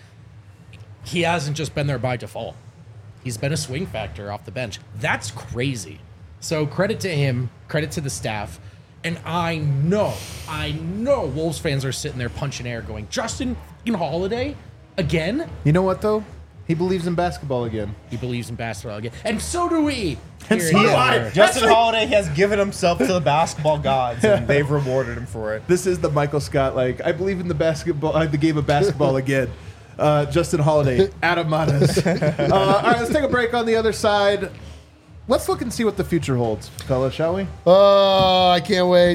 He hasn't just been there by default. He's been a swing factor off the bench. That's crazy. So credit to him, credit to the staff. And I know, I know Wolves fans are sitting there punching air going, Justin fucking Holiday again? You know what, though? He believes in basketball again. He believes in basketball again. And so do we. And Here so and do there. I. Justin Holiday has given himself to the basketball gods, and they've rewarded him for it. This is the Michael Scott, like, I believe in the basketball, uh, the game of basketball again. Uh, Justin Holiday, Adam Matas. Uh, all right, let's take a break on the other side. let's look and see what the future holds, fellas, shall we? Oh, I can't wait.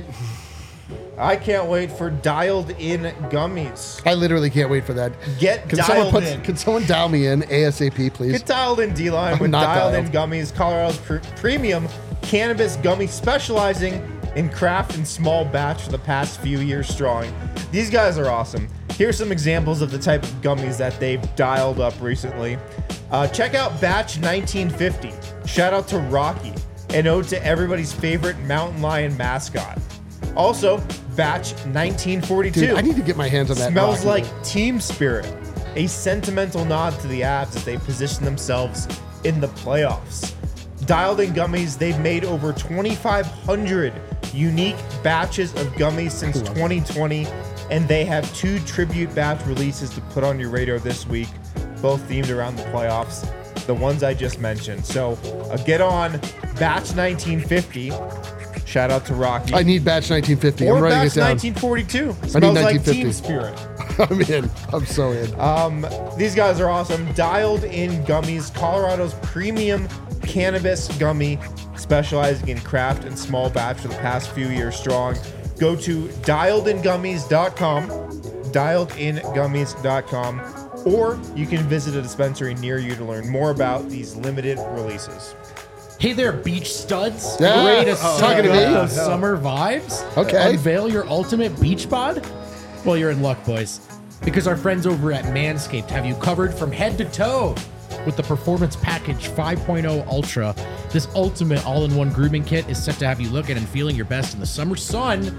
I can't wait for dialed in gummies. I literally can't wait for that. Get Can someone dialed put? in. Can someone dial me in ASAP, please? Get dialed in, D-Line, I'm with not dialed, in dialed. gummies, Colorado's pr- premium cannabis gummy specializing in craft and small batch for the past few years strong. These guys are awesome. Here's some examples of the type of gummies that they've dialed up recently. Uh, check out Batch nineteen fifty. Shout out to Rocky. An ode to everybody's favorite mountain lion mascot. Also, Batch nineteen forty-two. Dude, I need to get my hands on that. Smells Rocky. like Team Spirit, a sentimental nod to the Avs as they position themselves in the playoffs. Dialed in gummies, they've made over twenty-five hundred unique batches of gummies since twenty twenty, and they have two tribute batch releases to put on your radar this week, both themed around the playoffs, the ones I just mentioned. So uh, get on Batch nineteen fifty. Shout out to Rocky. I need batch nineteen fifty. or I'm writing Batch it down. nineteen forty-two. Smells like nineteen fifty. Team Spirit. I'm in. I'm so in. Um, these guys are awesome. Dialed in gummies, Colorado's premium cannabis gummy, specializing in craft and small batch for the past few years strong. Go to dialed in gummies dot com, dialed in gummies dot com, or you can visit a dispensary near you to learn more about these limited releases. Hey there, beach studs. Yeah. Ready to Oh, suck talking to up me? those summer vibes? Okay. Unveil your ultimate beach bod? Well, you're in luck, boys. Because our friends over at Manscaped have you covered from head to toe with the Performance Package five point oh Ultra. This ultimate all-in-one grooming kit is set to have you looking and feeling your best in the summer sun.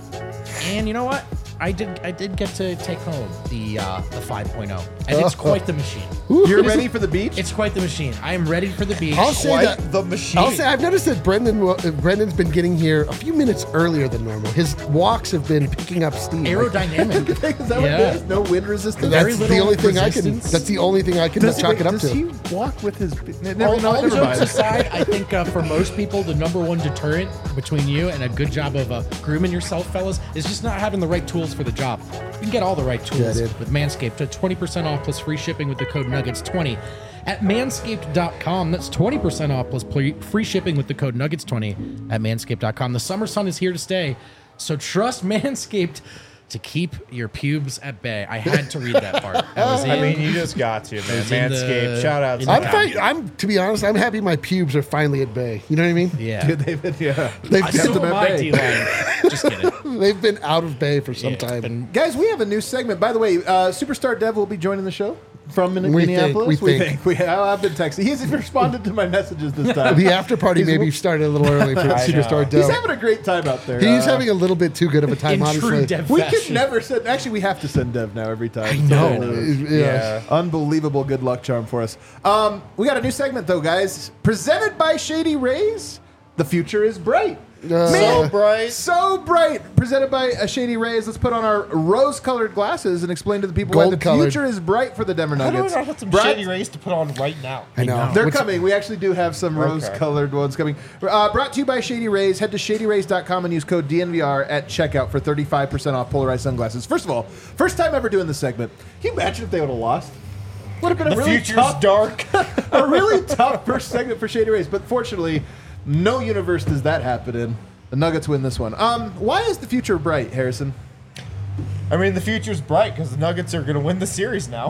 And you know what? I did I did get to take home the uh, the five point oh. And it's quite the machine. You're It is- ready for the beach? It's quite the machine. I am ready for the beach. I'll say Quite that. the machine. I'll say I've noticed that Brendan uh, Brendan's been getting here a few minutes earlier than normal. His walks have been picking up steam. Like, Aerodynamic. Is that what Yeah. it is? No wind resistance? Very that's the little only thing I can. resistance. That's the only thing I can Does, chalk wait, it up does to. he walk with his... Never, all no, all never jokes mind. aside, I think uh, for most people, the number one deterrent between you and a good job of uh, grooming yourself, fellas, is just not having the right tools for the job. You can get all the right tools Yeah, dude. with Manscaped to twenty percent off plus free shipping with the code nuggets twenty at manscaped dot com. That's twenty percent off plus pl- free shipping with the code nuggets twenty at manscaped dot com. The summer sun is here to stay, so trust Manscaped to keep your pubes at bay. I had to read that part. I was in, I mean, you just got to, man. was in the- Manscaped. Shout out in to the I'm, them. fine, I'm to be honest. I'm happy my pubes are finally at bay. You know what I mean? yeah. Dude, they've been, yeah. They've I kept so them am at I, bay. D-line. Just kidding. They've been out of bay for some Yeah, time. been- Guys, we have a new segment. By the way, uh, Superstar Dev will be joining the show from Min- We think- Minneapolis. we think. We, I've been texting. He's responded to my messages this time. the after party He's- maybe started a little early for I Superstar know. He's Dev. having a great time out there. He's Uh, having a little bit too good of a time, In honestly. true Dev We fashion. could never send. Actually, we have to send Dev now every time. I No, yeah. Yeah. Unbelievable good luck charm for us. Um, we got a new segment though, guys. Presented by Shady Rays. The future is bright. Uh, So bright. So bright. Presented by uh, Shady Rays. Let's put on our rose-colored glasses and explain to the people why the Gold-colored. future is bright for the Denver How do I Nuggets. not have some Bright- shady rays to put on right now? I know. They're What's- coming. We actually do have some Okay. rose-colored ones coming. Uh, brought to you by Shady Rays. Head to shady rays dot com and use code D N V R at checkout for thirty-five percent off polarized sunglasses. First of all, first time ever doing this segment. Can you imagine if they would have lost? Would have been a The really future's tough, dark. a really tough first segment for Shady Rays. But fortunately, no universe does that happen in. The Nuggets win this one. Um, why is the future bright, Harrison? I mean, the future's bright because the Nuggets are going to win the series now.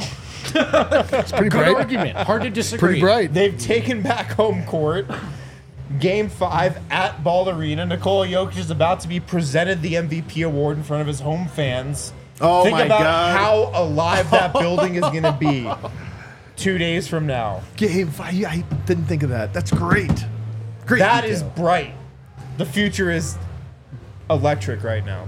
It's pretty Good bright. argument. Hard to disagree. Pretty bright. They've taken back home court. Game five at Ball Arena. Nikola Jokic is about to be presented the M V P award in front of his home fans. Oh Think my about God. how alive that building is going to be two days from now. Game five. Yeah, I didn't think of that. That's great. Great. That is detail. bright. The future is electric right now.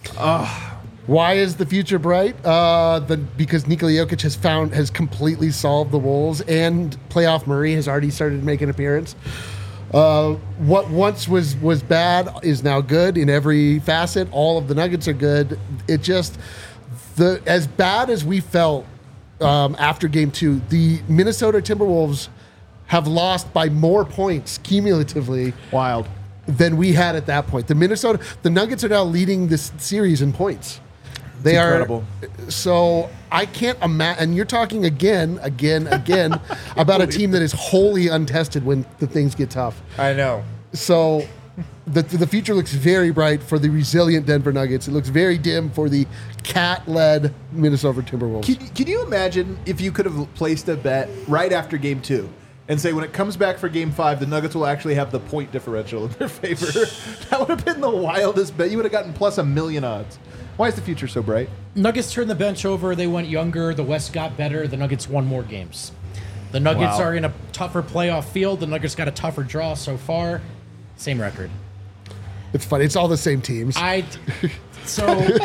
Why is the future bright? Uh, the because Nikola Jokic has found has completely solved the Wolves, and playoff Murray has already started to make an appearance. Uh, what once was was bad is now good in every facet. All of the Nuggets are good. It just the as bad as we felt um, after Game Two, the Minnesota Timberwolves have lost by more points cumulatively Wild. than we had at that point. The Minnesota, the Nuggets are now leading this series in points. They It's are incredible. so I can't imagine. And you're talking again, again, again about a team that is wholly untested when the things get tough. I know. So the the future looks very bright for the resilient Denver Nuggets. It looks very dim for the cat-led Minnesota Timberwolves. Can, can you imagine if you could have placed a bet right after game two and say when it comes back for game five, the Nuggets will actually have the point differential in their favor? That would have been the wildest bet. You would have gotten plus a million odds. Why is the future so bright? Nuggets turned the bench over. They went younger. The West got better. The Nuggets won more games. The Nuggets Wow. are in a tougher playoff field. The Nuggets got a tougher draw so far. Same record. It's funny. It's all the same teams. I so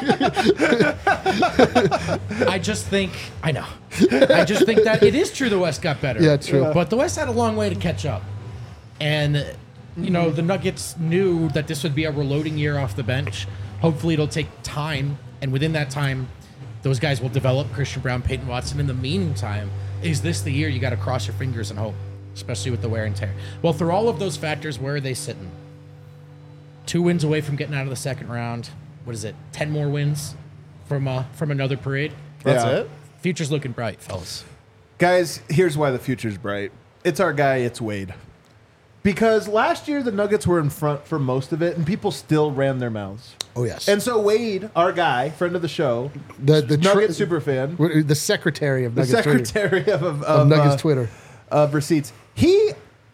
I just think I know. I just think that it is true the West got better. Yeah, true. But the West had a long way to catch up. And you know, the Nuggets knew that this would be a reloading year off the bench. Hopefully it'll take time, and within that time, those guys will develop. Christian Brown, Peyton Watson. In the meantime, is this the year you got to cross your fingers and hope, especially with the wear and tear? Well, through all of those factors, where are they sitting? Two wins away from getting out of the second round. What is it? Ten more wins from uh, from another parade. That's Yeah. it? Future's looking bright, fellas. Guys, here's why the future's bright. It's our guy, it's Wade. Because last year the Nuggets were in front for most of it, and people still ran their mouths. oh yes. And so Wade, our guy, friend of the show, the the Nugget tr- super fan, the secretary of the Nuggets Twitter. secretary of, of, Of of, Nuggets uh, Twitter. of receipts, he,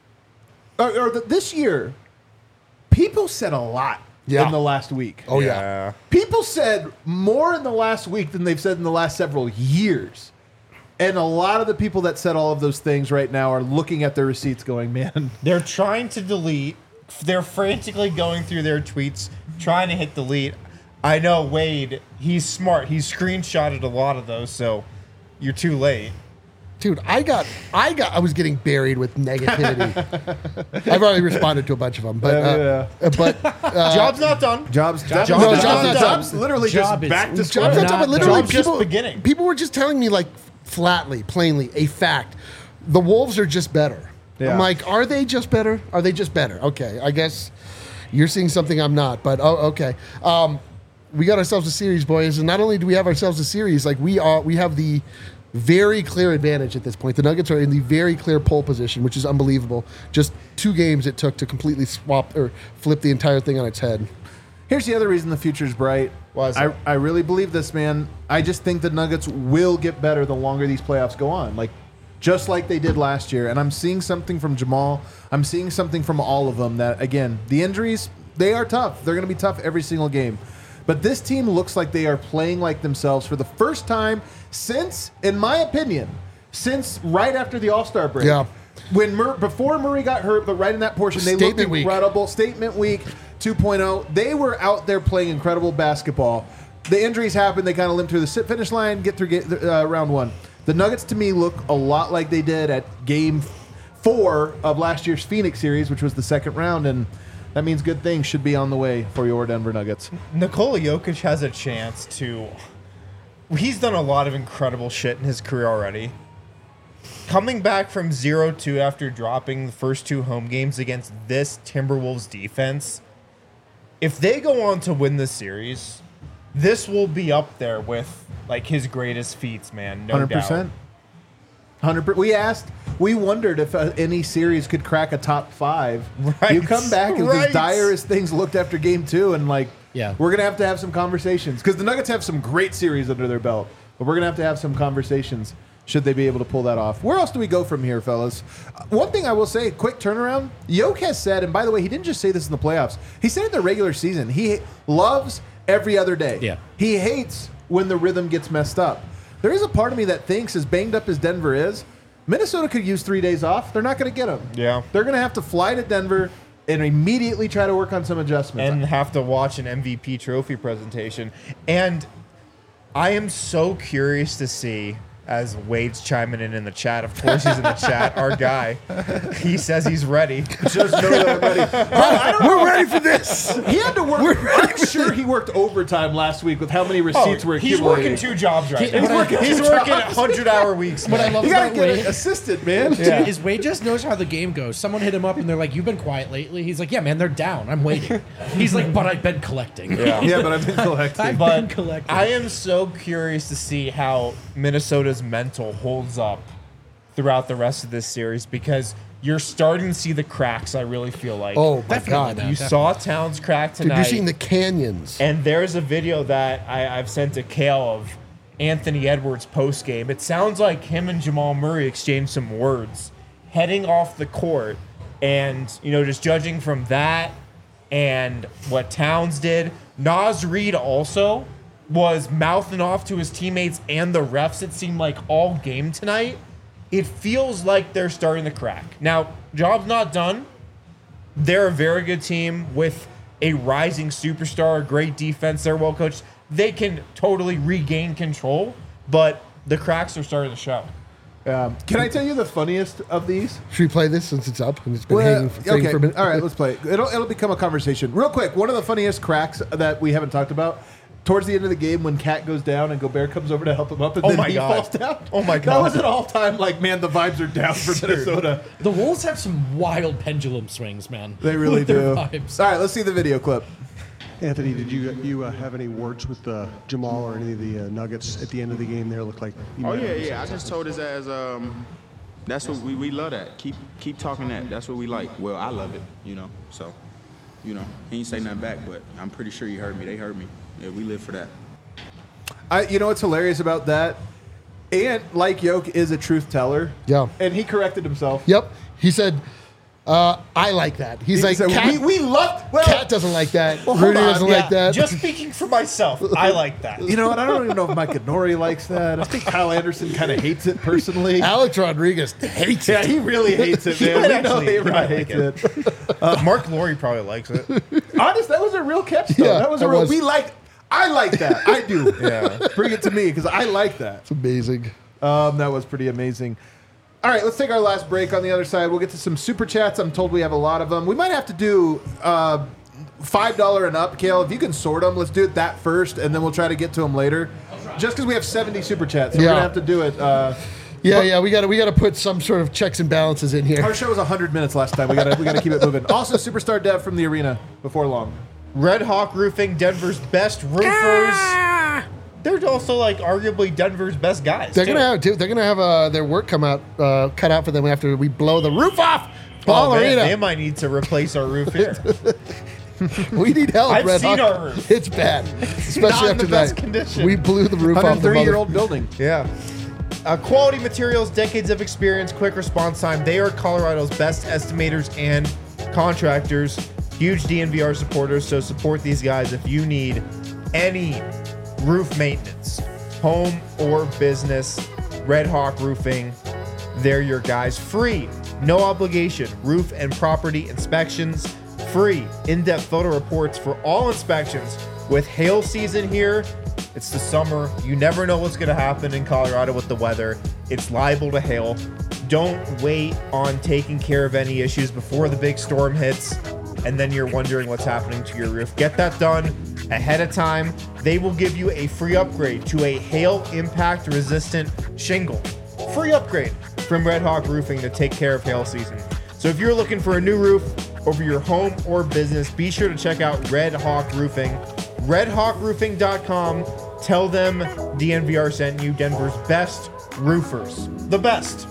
or, or the, this year, people said a lot Yeah. in the last week. Oh yeah. People said more in the last week than they've said in the last several years. And a lot of the people that said all of those things right now are looking at their receipts going, man, They're trying to delete. They're frantically going through their tweets, trying to hit delete. I know Wade, he's smart. He's screenshotted a lot of those, so you're too late. Dude, I got, I got, I was getting buried with negativity. I've already responded to a bunch of them, but, uh, uh, but uh, Job's not done. Jobs, jobs, Job's No, not Job's not done. jobs literally Job just is- back to Job's square. Job's not not done, but literally Job's just people, beginning. people were just telling me like flatly, plainly, a fact. The Wolves are just better. Yeah. I'm like, are they just better? Are they just better? Okay, I guess you're seeing something I'm not, but oh, okay. Um, we got ourselves a series, boys, and not only do we have ourselves a series, like we are, we have the very clear advantage at this point. The Nuggets are in the very clear pole position, which is unbelievable. Just two games it took to completely swap or flip the entire thing on its head. Here's the other reason the future's bright. Why is I, that? I really believe this, man. I just think the Nuggets will get better the longer these playoffs go on. Like, just like they did last year. And I'm seeing something from Jamal. I'm seeing something from all of them that, again, the injuries, they are tough. They're going to be tough every single game. But this team looks like they are playing like themselves for the first time since, in my opinion, since right after the All-Star break. Yeah. When Mur- before Murray got hurt, but right in that portion, they Statement looked week. incredible. Statement week two point oh. They were out there playing incredible basketball. The injuries happened. They kind of limped through the sit- finish line, get through get, uh, round one. The Nuggets, to me, look a lot like they did at game four of last year's Phoenix series, which was the second round, and that means good things should be on the way for your Denver Nuggets. Nikola Jokic has a chance to. He's done a lot of incredible shit in his career already. Coming back from zero two after dropping the first two home games against this Timberwolves defense, if they go on to win the series, this will be up there with like his greatest feats, man. No one hundred doubt. percent. one hundred percent. We asked, we wondered if uh, any series could crack a top five. Right. You come back and Right. as dire as things looked after game two, and like, Yeah. we're going to have to have some conversations because the Nuggets have some great series under their belt, but we're going to have to have some conversations should they be able to pull that off. Where else do we go from here, fellas? Uh, one thing I will say, quick turnaround. Yoke has said, and by the way, he didn't just say this in the playoffs. He said in the regular season, he loves every other day. Yeah. He hates when the rhythm gets messed up. There is a part of me that thinks, as banged up as Denver is, Minnesota could use three days off. They're not going to get them. Yeah. They're going to have to fly to Denver and immediately try to work on some adjustments. And have to watch an M V P trophy presentation. And I am so curious to see As Wade's chiming in in the chat. Of course he's in the chat. Our guy. He says he's ready. Just know that I'm ready. I don't We're know. ready for this. He had to work. I'm sure he worked overtime last week with how many receipts were Oh, he's accumulating. working two jobs right He- now. he's working He's two working jobs. hundred-hour weeks. What I man. love You gotta about get Wade an assistant, man. Yeah. is Wade just knows how the game goes. Someone hit him up and they're like, "You've been quiet lately." He's like, "Yeah, man, they're down. I'm waiting." He's like, "But I've been collecting." Yeah. Yeah, but I've been collecting. I've But been collecting. I am so curious to see how Minnesota's mental holds up throughout the rest of this series because you're starting to see the cracks, I really feel like. Oh my Definitely, God. man. You saw Towns crack Dude, tonight. you're seeing the canyons. And there's a video that I, I've sent to Kale of Anthony Edwards post game. It sounds like him and Jamal Murray exchanged some words heading off the court. And, you know, just judging from that and what Towns did, Naz Reid also was mouthing off to his teammates and the refs, it seemed like, all game tonight. It feels like they're starting to crack. Now, job's not done. They're a very good team with a rising superstar, great defense. They're well coached. They can totally regain control, but the cracks are starting to show. Um, can I tell you the funniest of these? Should we play this since it's up and it's been Well, hanging, hanging okay. for a minute? All right, let's play it. It'll, it'll become a conversation. Real quick, one of the funniest cracks that we haven't talked about, towards the end of the game when Cat goes down and Gobert comes over to help him up and Oh then my he God. falls down. Oh my That God. was an all-time, like, man, the vibes are down for Minnesota. The Wolves have some wild pendulum swings, man. They really With their do. vibes. All right, let's see the video clip. Anthony, did you you uh, have any words with uh, Jamal or any of the uh, Nuggets at the end of the game there? Looked like you Oh might yeah, have yeah. I just told his ass, um, that's what we, we love that. Keep keep talking that. That's what we like. Well, I love it, you know. So, you know, he ain't say nothing back, but I'm pretty sure he heard me. They heard me. Yeah, we live for that. I, you know what's hilarious about that? Ant, like Yoke, is a truth teller. Yeah. And he corrected himself. Yep. He said, uh, I like that. He's He like, said, Cat, we, we love. Well, Cat doesn't like that. Well, hold Rudy on, doesn't yeah, like that. Just speaking for myself, I like that. you know what? I don't even know if Mike Nori likes that. I think Kyle Anderson kind of hates it personally. Alex Rodriguez hates Yeah, it. he really hates it, man. might We know actually- he he really might like hates it. it. Mark Laurie probably likes it. Honest, that was a real catch, though. Yeah, that was a that real. was. We like. I like that. I do. Yeah. Bring it to me because I like that. It's amazing. Um, that was pretty amazing. All right, let's take our last break. On the other side, we'll get to some super chats. I'm told we have a lot of them. We might have to do uh, five dollars and up, Kale. If you can sort them, let's do it that first, and then we'll try to get to them later. Just because we have seventy super chats, so Yeah. we're gonna have to do it. Uh, Yeah, yeah, we got to we got to put some sort of checks and balances in here. our show was one hundred minutes last time. We gotta we gotta keep it moving. Also, superstar Dev from the arena before long. Red Hawk Roofing, Denver's best roofers. They're also like arguably Denver's best guys. They're too. gonna have dude, they're gonna have uh, their work come out uh, cut out for them after we blow the roof off. Oh, Ball man, Arena. they might need to replace our roof here. We need help, I've Red seen Hawk. our roof. It's bad, especially not in after the best that. condition. We blew the roof off the one hundred three year mother- old building. Yeah. Uh, quality materials, decades of experience, quick response time. They are Colorado's best estimators and contractors. Huge D N V R supporters, so support these guys if you need any roof maintenance, home or business. Red Hawk Roofing, they're your guys. Free, no obligation, roof and property inspections. Free, in-depth photo reports for all inspections. With hail season here, it's the summer. You never know what's going to happen in Colorado with the weather. It's liable to hail. Don't wait on taking care of any issues before the big storm hits, and then you're wondering what's happening to your roof. Get that done ahead of time. They will give you a free upgrade to a hail impact resistant shingle. Free upgrade from Red Hawk Roofing to take care of hail season. So if you're looking for a new roof over your home or business, be sure to check out Red Hawk Roofing. red hawk roofing dot com. Tell them D N V R sent you, Denver's best roofers. The best.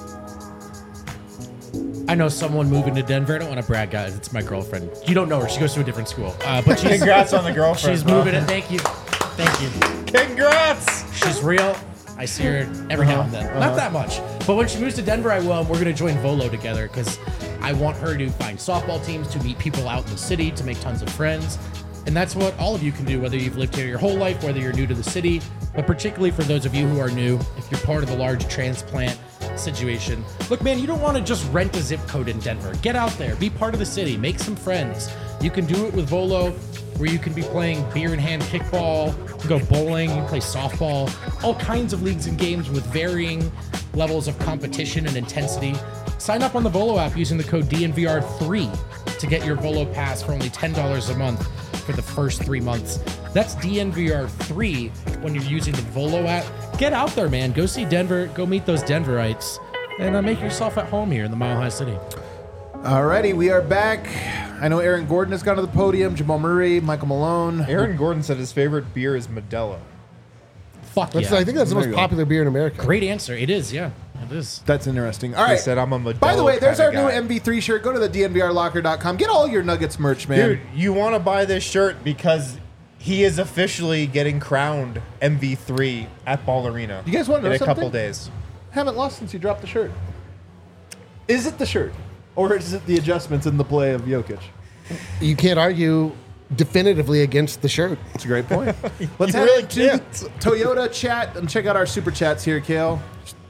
I know someone moving to Denver. I don't want to brag, guys. It's my girlfriend. You don't know her. She goes to a different school. Uh, but she's Congrats on the girlfriend. she's bro. moving it. Thank you. Thank you. Congrats. She's real. I see her every now and then. Not that much. But when she moves to Denver, I will. We're going to join Volo together because I want her to find softball teams, to meet people out in the city, to make tons of friends. And that's what all of you can do, whether you've lived here your whole life, whether you're new to the city, but particularly for those of you who are new, if you're part of the large transplant situation. Look, man, you don't want to just rent a zip code in Denver. Get out there, be part of the city, make some friends. You can do it with Volo, where you can be playing beer in hand kickball, you can go bowling, you can play softball, all kinds of leagues and games with varying levels of competition and intensity. Sign up on the Volo app using the code D N V R three to get your Volo pass for only ten dollars a month for the first three months. That's D N V R three when you're using the Volo app. Get out there, man. Go see Denver. Go meet those Denverites. And uh, make yourself at home here in the Mile High City. Alrighty, we are back. I know Aaron Gordon has gone to the podium. Jamal Murray, Michael Malone. Aaron Gordon said his favorite beer is Modelo. Fuck That's, yeah. I think that's the There most you go. popular beer in America. Great answer. It is, yeah. It is. That's interesting. All He right. said I'm a Modelo By the way, there's our kinda new guy. M V three shirt. Go to the D N V R locker dot com. Get all your Nuggets merch, man. Dude, you want to buy this shirt because he is officially getting crowned M V three at Ball Arena. You guys wanna know in a couple something? days. Haven't lost since you dropped the shirt. Is it the shirt? Or is it the adjustments in the play of Jokic? You can't argue definitively against the shirt. That's a great point. Let's You head really into can't. Toyota chat and check out our super chats here, Kale.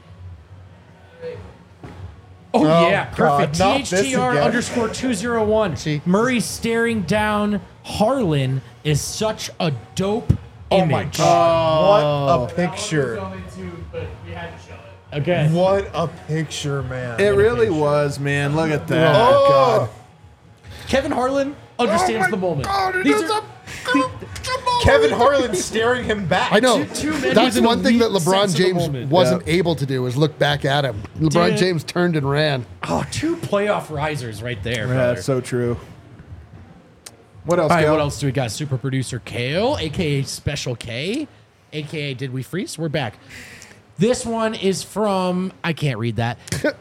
Oh, Oh, yeah, God, perfect. not this T H T R again. underscore two zero one. Murray staring down Harlan is such a dope Oh image. my God. What a picture. Okay. What a picture, man. It really was, man. Look at that. Oh, God. Kevin Harlan understands the moment. These are Kevin Harlan staring him back. I know. Two- two men That's with an one thing that elite LeBron sense of the James moment. wasn't Yeah. able to do is look back at him. LeBron Dude. James turned and ran. oh, two playoff risers right there. Yeah, brother. that's so true. What else, All right, Kale? what else do we got? Super producer Kale, aka Special K, aka Did We Freeze? We're back. This one is from I can't read that. We're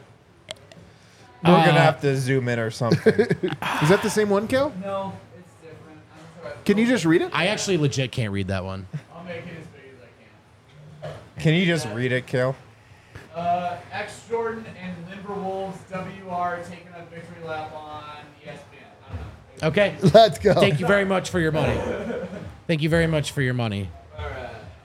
Uh, going to have to zoom in or something. Is that the same one, Kale? No, it's different. I'm sorry. Can you just read it? I actually legit can't read that one. I'll make it as big as I can. Can you just read it, Kale? Uh, X Jordan and Timberwolves W R taking a victory lap on E S P N. I don't know. Okay. Let's go. Thank you very much for your money. Thank you very much for your money. All right.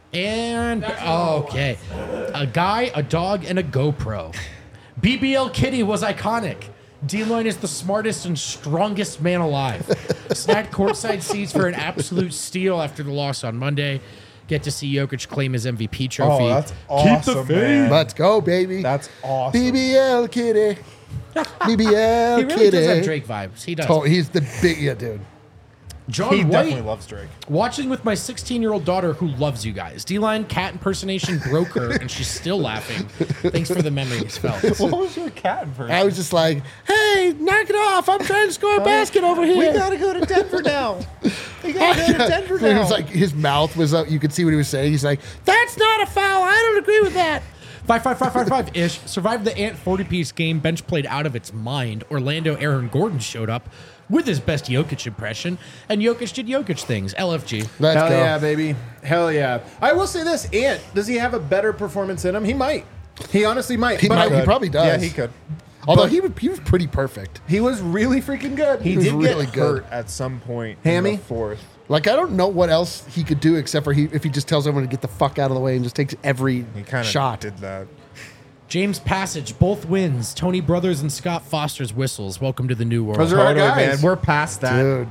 And okay, a guy, a dog, and a GoPro. B B L Kitty was iconic. D-Line is the smartest and strongest man alive. Snagged courtside seats for an absolute steal after the loss on Monday. Get to see Jokic claim his M V P trophy. Oh, that's awesome, man. Let's go, baby. That's awesome. B B L kitty. B B L he really kitty. does have Drake vibes. He does. Oh, he's the big, yeah, dude. John He White. definitely loves Drake. Watching with my sixteen-year-old daughter who loves you guys. D-Line cat impersonation broke her, and she's still laughing. Thanks for the memories, fellas. What was your cat version? I was just like, hey, knock it off. I'm trying to score a basket over here. We gotta go to Denver now. We gotta go to Denver It now. was like his mouth was up. You could see what he was saying. He's like, that's not a foul. I don't agree with that. Five, five, five, five, five ish. Survived the Ant forty-piece game. Bench played out of its mind. Orlando Aaron Gordon showed up with his best Jokic impression, and Jokic did Jokic things. L F G. Let's Hell go. yeah, baby. Hell yeah. I will say this, Ant, does he have a better performance in him? He might. He honestly might. He but might- I- he probably does. Yeah, he could. Although he, was- he was pretty perfect. he was really freaking good. He, was did really get good. hurt at some point Hammy? in the fourth. Like, I don't know what else he could do except for he if he just tells everyone to get the fuck out of the way and just takes every He kind of shot. did that. James Passage, both wins. Tony Brothers and Scott Foster's whistles. Welcome to the new world. Those are our Totally, guys. man. We're past that. Dude,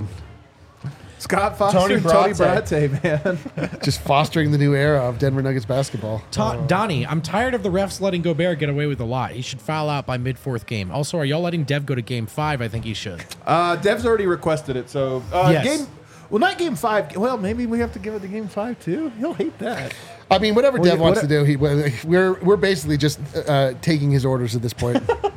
Scott Foster Tony and Tony Brate. Brate, man. just fostering the new era of Denver Nuggets basketball. Ta- Donnie, I'm tired of the refs letting Gobert get away with a lot. He should foul out by mid-fourth game. Also, are y'all letting Dev go to game five? I think he should. Uh, Dev's already requested it, so uh, Yes. game. Well, not game five. Well, maybe we have to give it to game five too. He'll hate that. I mean, whatever Well, Dev you- wants what- to do, he we're we're basically just uh, taking his orders at this point.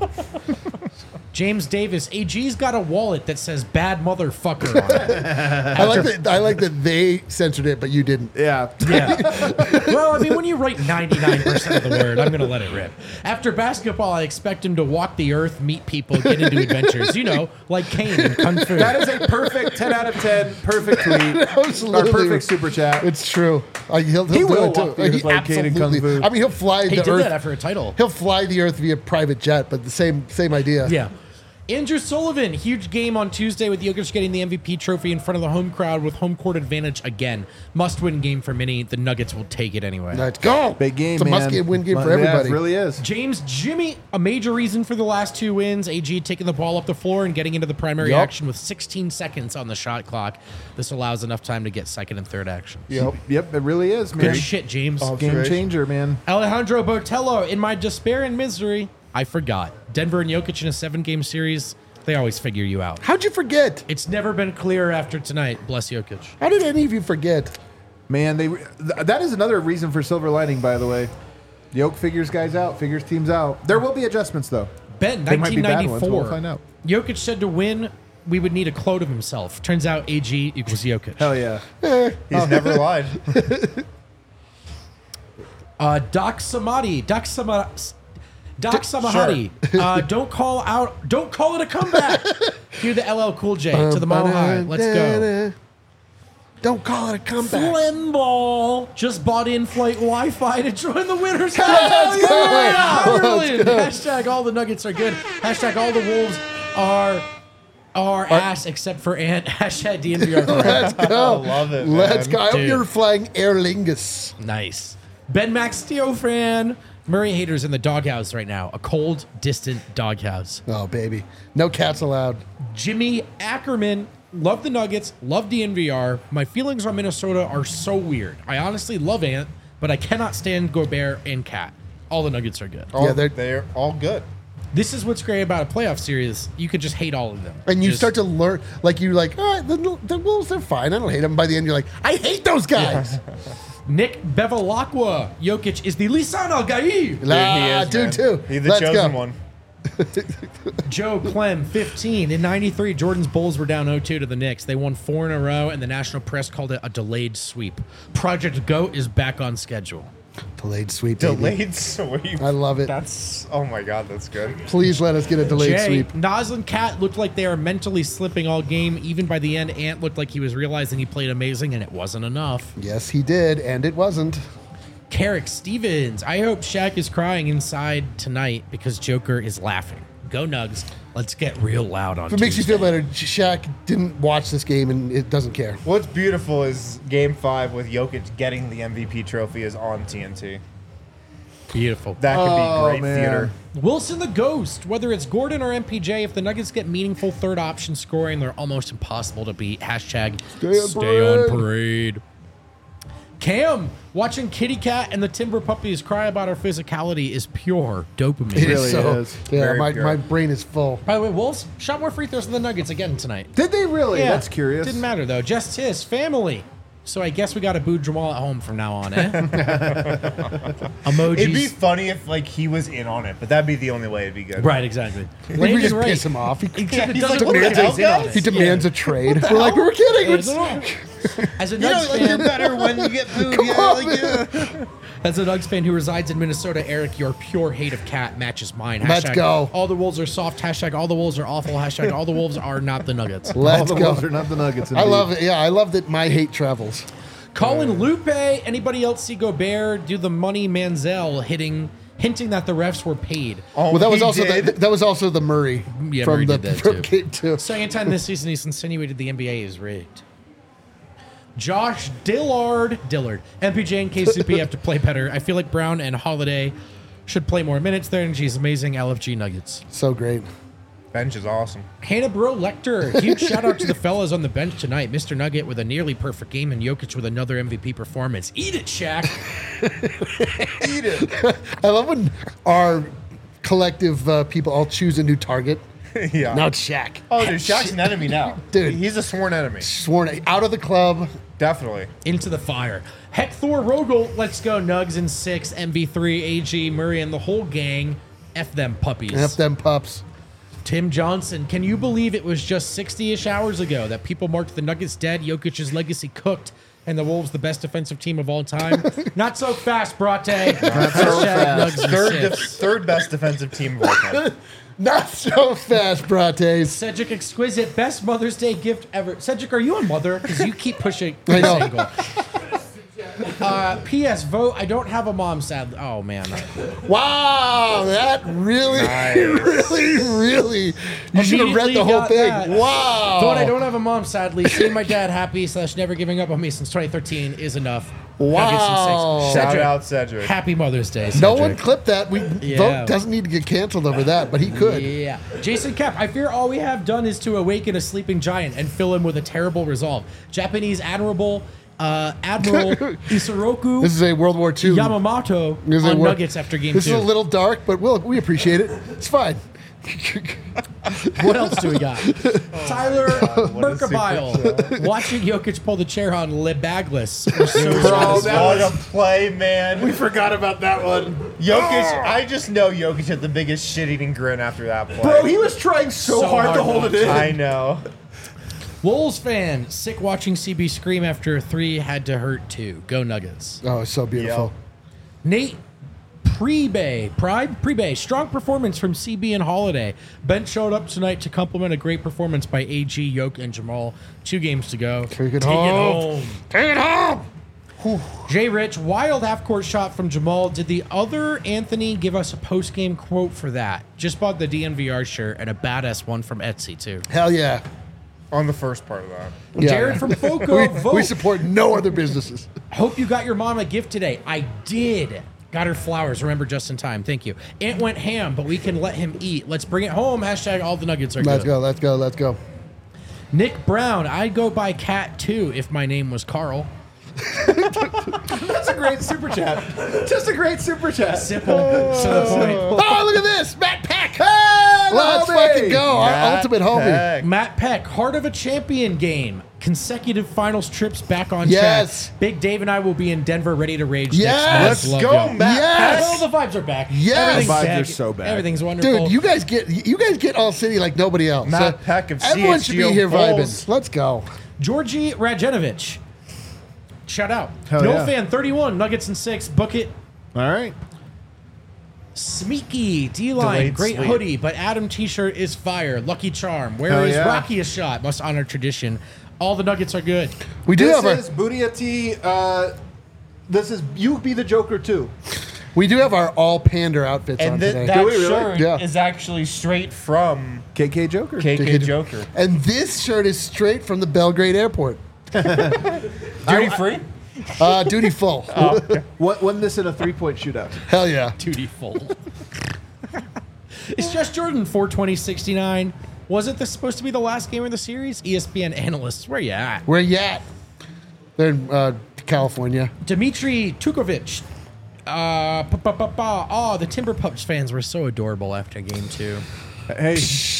James Davis, A G's got a wallet that says bad motherfucker on it. I like that. I like that they censored it, but you didn't. Yeah. Yeah. Well, I mean, when you write ninety-nine percent of the word, I'm going to let it rip. After basketball, I expect him to walk the earth, meet people, get into adventures. You know, like Kane and Kung Fu. That is a perfect ten out of ten. Perfect tweet. Absolutely. Or perfect super chat. It's true. Uh, he'll, he'll He do will it too. walk the earth He like Kane and Kung absolutely- Fu. I mean, he'll fly he the did earth. that after a title. He'll fly the earth via private jet, but the same same idea. Yeah. Andrew Sullivan, huge game on Tuesday with Jokic getting the M V P trophy in front of the home crowd with home court advantage again. Must-win game for many. The Nuggets will take it anyway. Let's go. Big game, It's a man. must-win game for Yeah, everybody. it really is. James Jimmy, a major reason for the last two wins. A G taking the ball up the floor and getting into the primary Yup. action with sixteen seconds on the shot clock. This allows enough time to get second and third action. Yep. Yep, it really is, man. Good shit, James. Game changer, man. Alejandro Botello, in my despair and misery, I forgot. Denver and Jokic in a seven-game series, they always figure you out. How'd you forget? It's never been clearer after tonight. Bless Jokic. How did any of you forget? Man, they th- that is another reason for silver lining, by the way. Yoke figures guys out, figures teams out. There will be adjustments, though. Ben, They might be nineteen bad ninety-four. ones, but we'll find out. Jokic said to win, we would need a clone of himself. Turns out A G equals Jokic. Hell yeah. He's never lied. Uh, Doc Samadi, Doc Samadi, Doc Samahati. Uh, don't call out. Don't call it a comeback. Cue the L L Cool J to the Mile High. Let's go. Don't call it a comeback. Flimball just bought in-flight Wi-Fi to join the winners. Let's go. Yeah, Ireland. Let's Hashtag all the Nuggets are good. Hashtag all the Wolves are are ass except for Ant. Hashtag D N V R. Let's go. I love it, Let's man. go. I hope Dude. you're flying Aer Lingus. Nice. Ben Max Theo fan. Murray haters in the doghouse right now. A cold, distant doghouse. Oh, baby. No cats allowed. Jimmy Ackerman. Love the Nuggets. Love D N V R. My feelings on Minnesota are so weird. I honestly love Ant, but I cannot stand Gobert and Cat. All the Nuggets are good. All, Yeah, they're- they're all good. This is what's great about a playoff series. You could just hate all of them. And you Just- start to learn, like, you're like, all right, the, the Wolves, they're fine. I don't hate them. By the end, you're like, I hate those guys. Nick Bevilacqua. Jokic is the Lisan Al-Gaib. La, Dude, he is, dude, man. too. He's the Let's chosen go. one. Joe Clem, fifteen. In ninety-three, Jordan's Bulls were down oh two to the Knicks. They won four in a row, and the national press called it a delayed sweep. Project GOAT is back on schedule. Delayed sweep. baby. Delayed sweep. I love it. That's, oh my God, that's good. Please let us get a delayed Jay, sweep. Nas and Cat looked like they are mentally slipping all game. Even by the end, Ant looked like he was realizing he played amazing, and it wasn't enough. Yes, he did, and it wasn't. Carrick Stevens. I hope Shaq is crying inside tonight because Joker is laughing. Go Nugs. Let's get real loud on If it makes you Tuesday. feel better, Shaq didn't watch this game and it doesn't care. What's beautiful is Game Five with Jokic getting the M V P trophy is on T N T. Beautiful. That could Oh, be great man. theater. Wilson the Ghost. Whether it's Gordon or M P J, if the Nuggets get meaningful third option scoring, they're almost impossible to beat. Hashtag Stay on stay on parade. parade. Cam, watching Kitty Cat and the Timber Puppies cry about our physicality is pure dopamine. It is really so. is. Yeah, Very my, pure. my brain is full. By the way, Wolves shot more free throws than the Nuggets again tonight. Did they really? That's curious. Didn't matter though. Just his family. So I guess we got to boo Jamal at home from now on, eh? Emojis. It'd be funny if like he was in on it, but that'd be the only way it'd be good. right, exactly. I think we Landon's just right. piss him off. He, Except it He's doesn't like, work "What the if he's in hell, on guys?" he it. demands a trade. We're like, we were kidding. Yeah, It's- no. As a You know, Nuggets like, you're fan, better when you get booed. Yeah, on, like, yeah. as a Nuggets fan who resides in Minnesota, Eric, your pure hate of Cat matches mine. Hashtag Let's go. All the Wolves are soft. Hashtag all the Wolves are awful. Hashtag all the Wolves are not the Nuggets. All Let's the go. Wolves are not the Nuggets. I love it. Yeah, I love that my hate travels. Colin Lupe. Anybody else see Gobert do the money Manziel hitting, hinting that the refs were paid? Oh, Well, that was he also the, did? that was also the Murray Yeah, from Murray the did that from too. game two. Second time this season, he's insinuated the N B A is rigged. Josh Dillard, Dillard, M P J and K C P have to play better. I feel like Brown and Holiday should play more minutes. Their energy is amazing. L F G Nuggets. So great. Bench is awesome. Hannah Bro Lecter, huge shout out to the fellas on the bench tonight. Mister Nugget with a nearly perfect game and Jokic with another M V P performance. Eat it, Shaq. Eat it. I love when our collective uh, people all choose a new target. Yeah. Now it's Shaq. Oh, dude, Shaq's an enemy now. Dude. He's a sworn enemy. Sworn out of the club. Definitely. Into the fire. Hector Rogel, let's go. Nugs in six, M V three, A G, Murray, and the whole gang. F them puppies. F them pups. Tim Johnson, can you believe it was just sixty-ish hours ago that people marked the Nuggets dead, Jokic's legacy cooked, and the Wolves the best defensive team of all time? Not so fast, Brate. Not so fast. Third, def- third best defensive team of all time. Not so fast, Brates. Cedric Exquisite, best Mother's Day gift ever. Cedric, are you a mother? Because you keep pushing I this know. angle. Uh, P S. Vote. I don't have a mom. Sadly. Oh man. Wow, that really, really, really. You should have read Immediately the whole got thing. that. Wow. Though I don't have a mom, sadly, seeing my dad happy slash never giving up on me since twenty thirteen is enough. Wow. Nuggets and six. Shout Cedric, out Cedric. Happy Mother's Day, No Cedric. one clipped that. We Yeah. Vote doesn't need to get canceled over that, but he could. Yeah. Jason Kep, I fear all we have done is to awaken a sleeping giant and fill him with a terrible resolve. Japanese Admiral uh, Admiral Isoroku This is a World War Two. Yamamoto This is a on wor- Nuggets after game This two. is a little dark, but we'll, we appreciate it. It's fine. What else do we got? Tyler what a super Mercabile watching Jokic pull the chair on Lebagless. was so Bro, satisfying. what a play, man. We forgot about that one. Jokic, I just know Jokic had the biggest shit-eating grin after that play. Bro, he was trying so, So hard, hard to hold not it in. I know. Wolves fan, sick watching C B scream after a three had to hurt too. Go Nuggets. Oh, it's so beautiful. Nate Prebe, Pride Prebe, strong performance from C B and Holiday. Ben showed up tonight to complement a great performance by A G, Yoke, and Jamal. Two games to go. Take it home. Take it home. Jay Rich, wild half-court shot from Jamal. Did the other Anthony give us a post-game quote for that? Just bought the D N V R shirt and a badass one from Etsy too. Hell yeah. On the first part of that. Yeah. Jared from Foco, we, vote. we support no other businesses. Hope you got your mom a gift today. I did. Got her flowers. Remember, just in time. Thank you. Ant went ham, but we can let him eat. Let's bring it home. Hashtag all the Nuggets are Let's good. go. Let's go. Let's go. Nick Brown. I'd go by Cat too if my name was Carl. That's a great super chat. Just a great super chat. Simple. to the point. Oh, look at this. Matt Peck. Hey, Let's homie. fucking go. Our Matt ultimate homie. Peck. Matt Peck. Heart of a champion game. Consecutive finals trips back on Yes. track. Big Dave and I will be in Denver ready to rage Yes. next month. Let's Love go, y'all. Matt. Yes. Oh, the vibes are back. Yes. Everything's Vibes back. are so back. Everything's wonderful. Dude, you guys get you guys get all city like nobody else. Matt Peck of everyone should be C H G O here Bulls. vibing. Let's go. Georgie Rajenovich. Shout out. Hell no yeah. fan thirty-one, Nuggets and six. Book it. All right. Smeeky, D-line, Delayed great sleep. hoodie, but Adam t-shirt is fire. Lucky charm. Where Hell is yeah. Rocky a shot? Must honor tradition. All the Nuggets are good. We do This have our is Booty T. Uh, this is you be the Joker too. we do have our all pander outfits on And th- today. that we really? shirt Yeah. is actually straight from K K Joker. K K K K Joker. And this shirt is straight from the Belgrade Airport. Duty free? Uh, duty full. What won this in a three point shootout? Hell yeah. Duty full. It's just Jordan four twenty sixty-nine. Wasn't this supposed to be the last game of the series? E S P N analysts, where you at? Where you at? They're in uh, California. Dmitry Tukovic. Uh, pa, pa, pa, pa. Oh, the Timber Pups fans were so adorable after game two. Hey.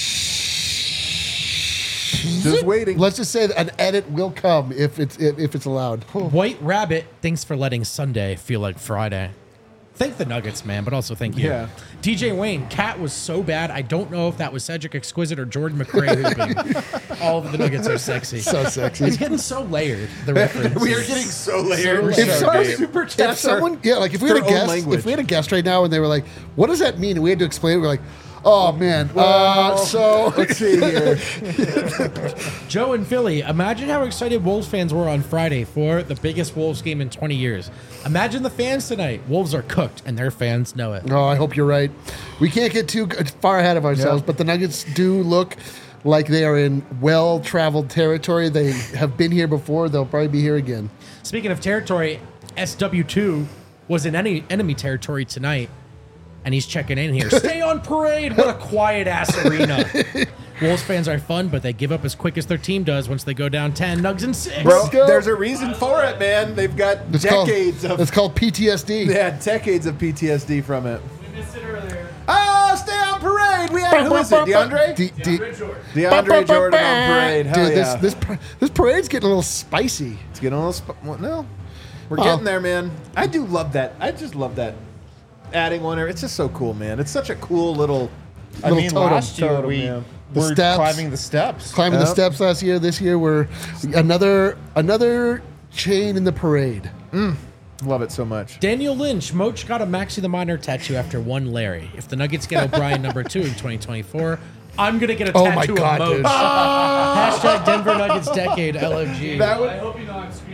Just waiting. Let's just say that an edit will come if it's if, if it's allowed. White Rabbit, thanks for letting Sunday feel like Friday. Thank the Nuggets, man, but also thank you. Yeah. D J Wayne, Cat was so bad. I don't know if that was Cedric Exquisite or Jordan McRae hooping. All of the Nuggets are sexy. So sexy. It's getting so layered, the reference. We are getting so layered. So If layered. our deep. super If chats are- someone, yeah, like if we had a their own guest, language. if we had a guest right now and they were like, "What does that mean?" and we had to explain, we are like, "Oh man, uh, so let's see here. Joe and Philly, imagine how excited Wolves fans were on Friday for the biggest Wolves game in twenty years. Imagine the fans tonight. Wolves are cooked, and their fans know it. Oh, I hope you're right. We can't get too g- far ahead of ourselves, Yeah. but the Nuggets do look like they are in well-traveled territory. They have been here before. They'll probably be here again. Speaking of territory, S W two was in any enemy territory tonight, and he's checking in here. Stay on parade. What a quiet ass arena. Wolves fans are fun, but they give up as quick as their team does once they go down ten. Nugs and six. Bro, Let's go. there's a reason for it, man. They've got It's decades called, of It's called P T S D. they had decades of P T S D from it. We missed it earlier. Oh, stay on parade. We had who is it? DeAndre? D- D- Red Jordan. DeAndre Jordan on parade. Hell Dude, yeah. this, this par- this parade's getting a little spicy. It's getting a little. Sp- well, no, we're Oh. getting there, man. I do love that. I just love that. Adding one, it's just so cool, man. It's such a cool little. I Little mean, totem, last year totem, we yeah. The were steps. climbing the steps. Climbing the Yep. steps last year. This year we're another another chain in the parade. Love it so much. Daniel Lynch, Moach got a Maxi the Miner tattoo after one Larry. If the Nuggets get O'Brien number two in twenty twenty-four, I'm gonna get a Oh tattoo my God, of Moach. dude. Hashtag Denver Nuggets decade L O G. That would I hope you know I'm screenshotting.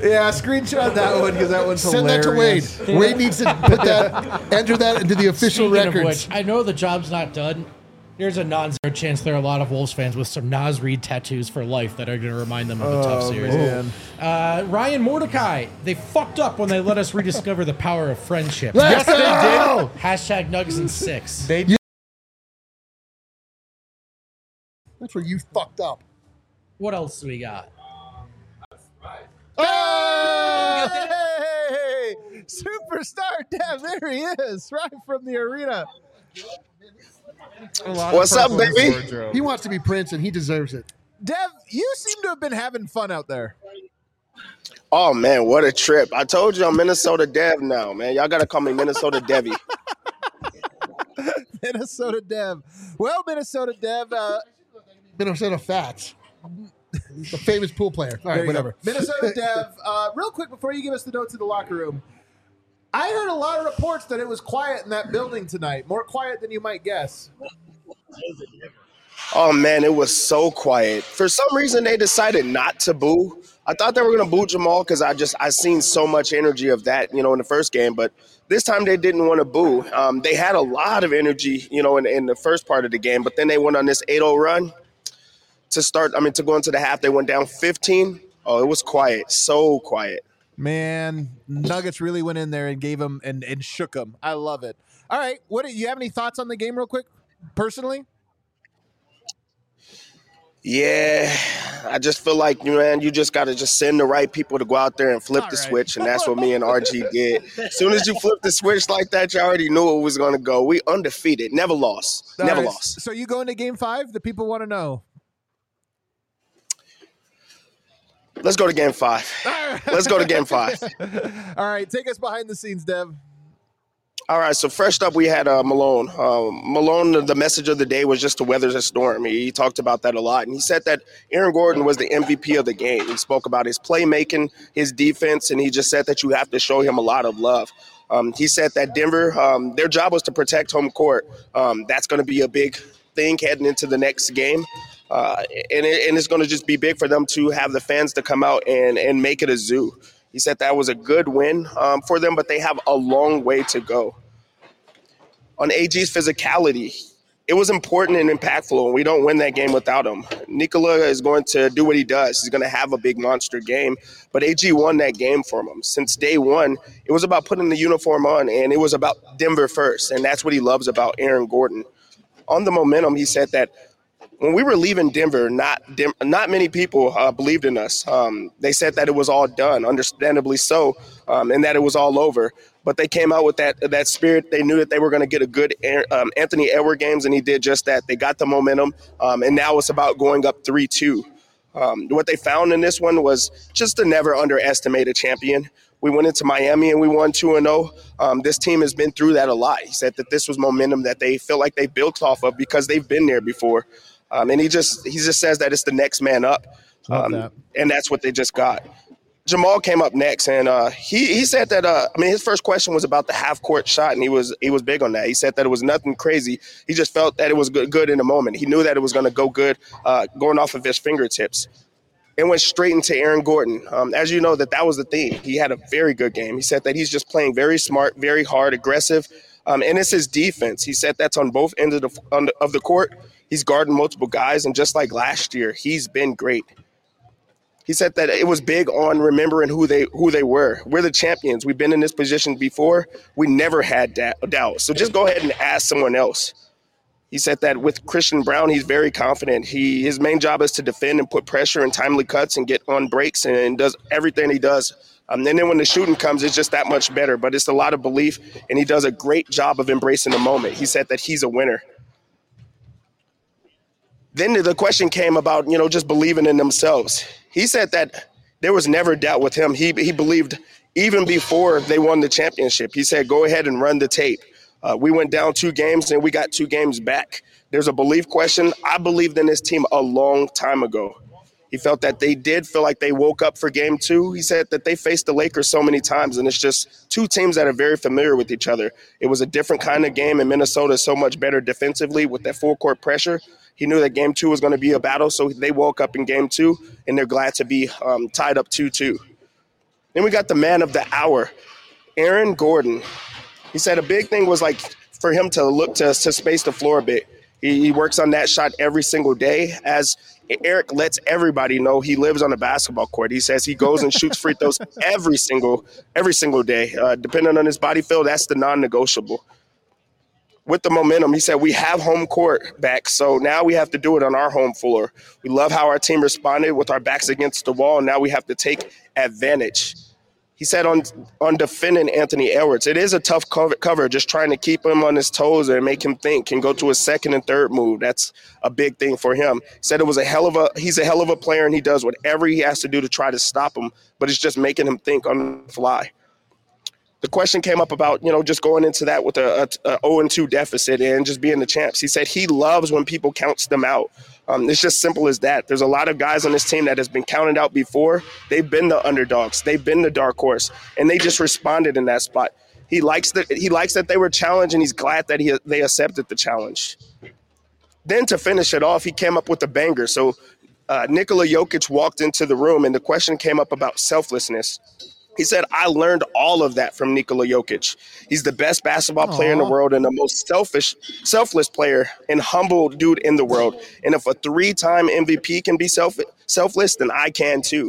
Yeah, screenshot that one because that one's Send that to Wade. hilarious. Wade needs to put that, enter that into the official Speaking records. of which, I know the job's not done. There's a non-zero chance there are a lot of Wolves fans with some Nas Reed tattoos for life that are going to remind them of a tough Oh, series. man. Uh, Ryan Mordecai, they fucked up when they let us rediscover the power of friendship. Let's go! Hashtag Nugs and Six. They That's where you fucked up. What else do we got? Oh, hey! Superstar Dev, there he is, right from the arena. What's up, baby? He wants to be Prince, and he deserves it. Dev, you seem to have been having fun out there. Oh man, what a trip! I told you I'm Minnesota Dev now, man. Y'all gotta call me Minnesota Devy. Minnesota Dev. Well, Minnesota Dev, uh, Minnesota Fats. The famous pool player. All there right, you whatever. go. Minnesota Dev, uh, real quick before you give us the notes of the locker room, I heard a lot of reports that it was quiet in that building tonight, more quiet than you might guess. Oh man, it was so quiet. For some reason, they decided not to boo. I thought they were gonna boo Jamal because I just I seen so much energy of that, you know, in the first game. But this time they didn't want to boo. Um, they had a lot of energy, you know, in, in the first part of the game. But then they went on this eight oh run to start. I mean, to go into the half, they went down fifteen. Oh, it was quiet, so quiet. Man, Nuggets really went in there and gave them and, and shook them. I love it. All right, what do you have any thoughts on the game, real quick, personally? Yeah, I just feel like, man, you just got to just send the right people to go out there and flip All the right. switch, and that's what me and R G did. As soon as you flip the switch like that, you already knew it was going to go. We undefeated, never lost, All never right, lost. So you go into game five? The people want to know. Let's go to game five. Let's go to game five. All right, take us behind the scenes, Dev. All right, so first up, we had uh, Malone. Um, Malone, the message of the day was just to weather the storm. He, he talked about that a lot, and he said that Aaron Gordon was the M V P of the game. He spoke about his playmaking, his defense, and he just said that you have to show him a lot of love. Um, he said that Denver, um, their job was to protect home court. Um, that's going to be a big thing heading into the next game. Uh, and, it, and it's going to just be big for them to have the fans to come out and, and make it a zoo. He said that was a good win um, for them, but they have a long way to go. On A G's physicality, it was important and impactful, and we don't win that game without him. Nikola is going to do what he does. He's going to have a big monster game, but A G won that game for him. Since day one, it was about putting the uniform on, and it was about Denver first, and that's what he loves about Aaron Gordon. On the momentum, he said that when we were leaving Denver, not Dem- not many people uh, believed in us. Um, they said that it was all done, understandably so, um, and that it was all over. But they came out with that that spirit. They knew that they were going to get a good um, Anthony Edwards games, and he did just that. They got the momentum, um, and now it's about going up three two. Um, what they found in this one was just to never underestimate a champion. We went into Miami and we won two and oh. Um, this team has been through that a lot. He said that this was momentum that they feel like they built off of because they've been there before. Um, and he just he just says that it's the next man up, um, that. and that's what they just got. Jamal came up next, and uh, he he said that uh, I mean his first question was about the half court shot, and he was he was big on that. He said that it was nothing crazy. He just felt that it was good, good in the moment. He knew that it was going to go good, uh, going off of his fingertips. It went straight into Aaron Gordon. Um, as you know, that that was the theme. He had a very good game. He said that he's just playing very smart, very hard, aggressive, um, and it's his defense. He said that's on both ends of the on the, of the court. He's guarding multiple guys, and just like last year, he's been great. He said that it was big on remembering who they who they were. We're the champions. We've been in this position before. We never had da- doubt. So just go ahead and ask someone else. He said that with Christian Braun, he's very confident. He his main job is to defend and put pressure and timely cuts and get on breaks and does everything he does. Um, and then when the shooting comes, it's just that much better. But it's a lot of belief, and he does a great job of embracing the moment. He said that he's a winner. Then the question came about, you know, just believing in themselves. He said that there was never doubt with him. He he believed even before they won the championship. He said, go ahead and run the tape. Uh, we went down two games and we got two games back. There's a belief question. I believed in this team a long time ago. He felt that they did feel like they woke up for game two. He said that they faced the Lakers so many times, and it's just two teams that are very familiar with each other. It was a different kind of game, and Minnesota is so much better defensively with that full court pressure. He knew that game two was going to be a battle, so they woke up in game two, and they're glad to be um, tied up two two. Then we got the man of the hour, Aaron Gordon. He said a big thing was like for him to look to, to space the floor a bit. He, he works on that shot every single day. As Eric lets everybody know, he lives on a basketball court. He says he goes and shoots free throws every single every single day. Uh, depending on his body feel, that's the non-negotiable. With the momentum, he said, we have home court back, so now we have to do it on our home floor. We love how our team responded with our backs against the wall, and now we have to take advantage. He said on on defending Anthony Edwards, it is a tough cover, cover, just trying to keep him on his toes and make him think and go to a second and third move. That's a big thing for him. He said it was a hell of a he's a hell of a player, and he does whatever he has to do to try to stop him, but it's just making him think on the fly. The question came up about, you know, just going into that with a, a, a oh and two deficit and just being the champs. He said he loves when people counts them out. Um, it's just simple as that. There's a lot of guys on this team that has been counted out before. They've been the underdogs. They've been the dark horse, and they just responded in that spot. He likes that. He likes that they were challenged, and he's glad that he they accepted the challenge. Then to finish it off, he came up with a banger. So uh, Nikola Jokic walked into the room, and the question came up about selflessness. He said, I learned all of that from Nikola Jokic. He's the best basketball Aww. player in the world and the most selfish, selfless player and humble dude in the world. And if a three-time M V P can be self, selfless, then I can too.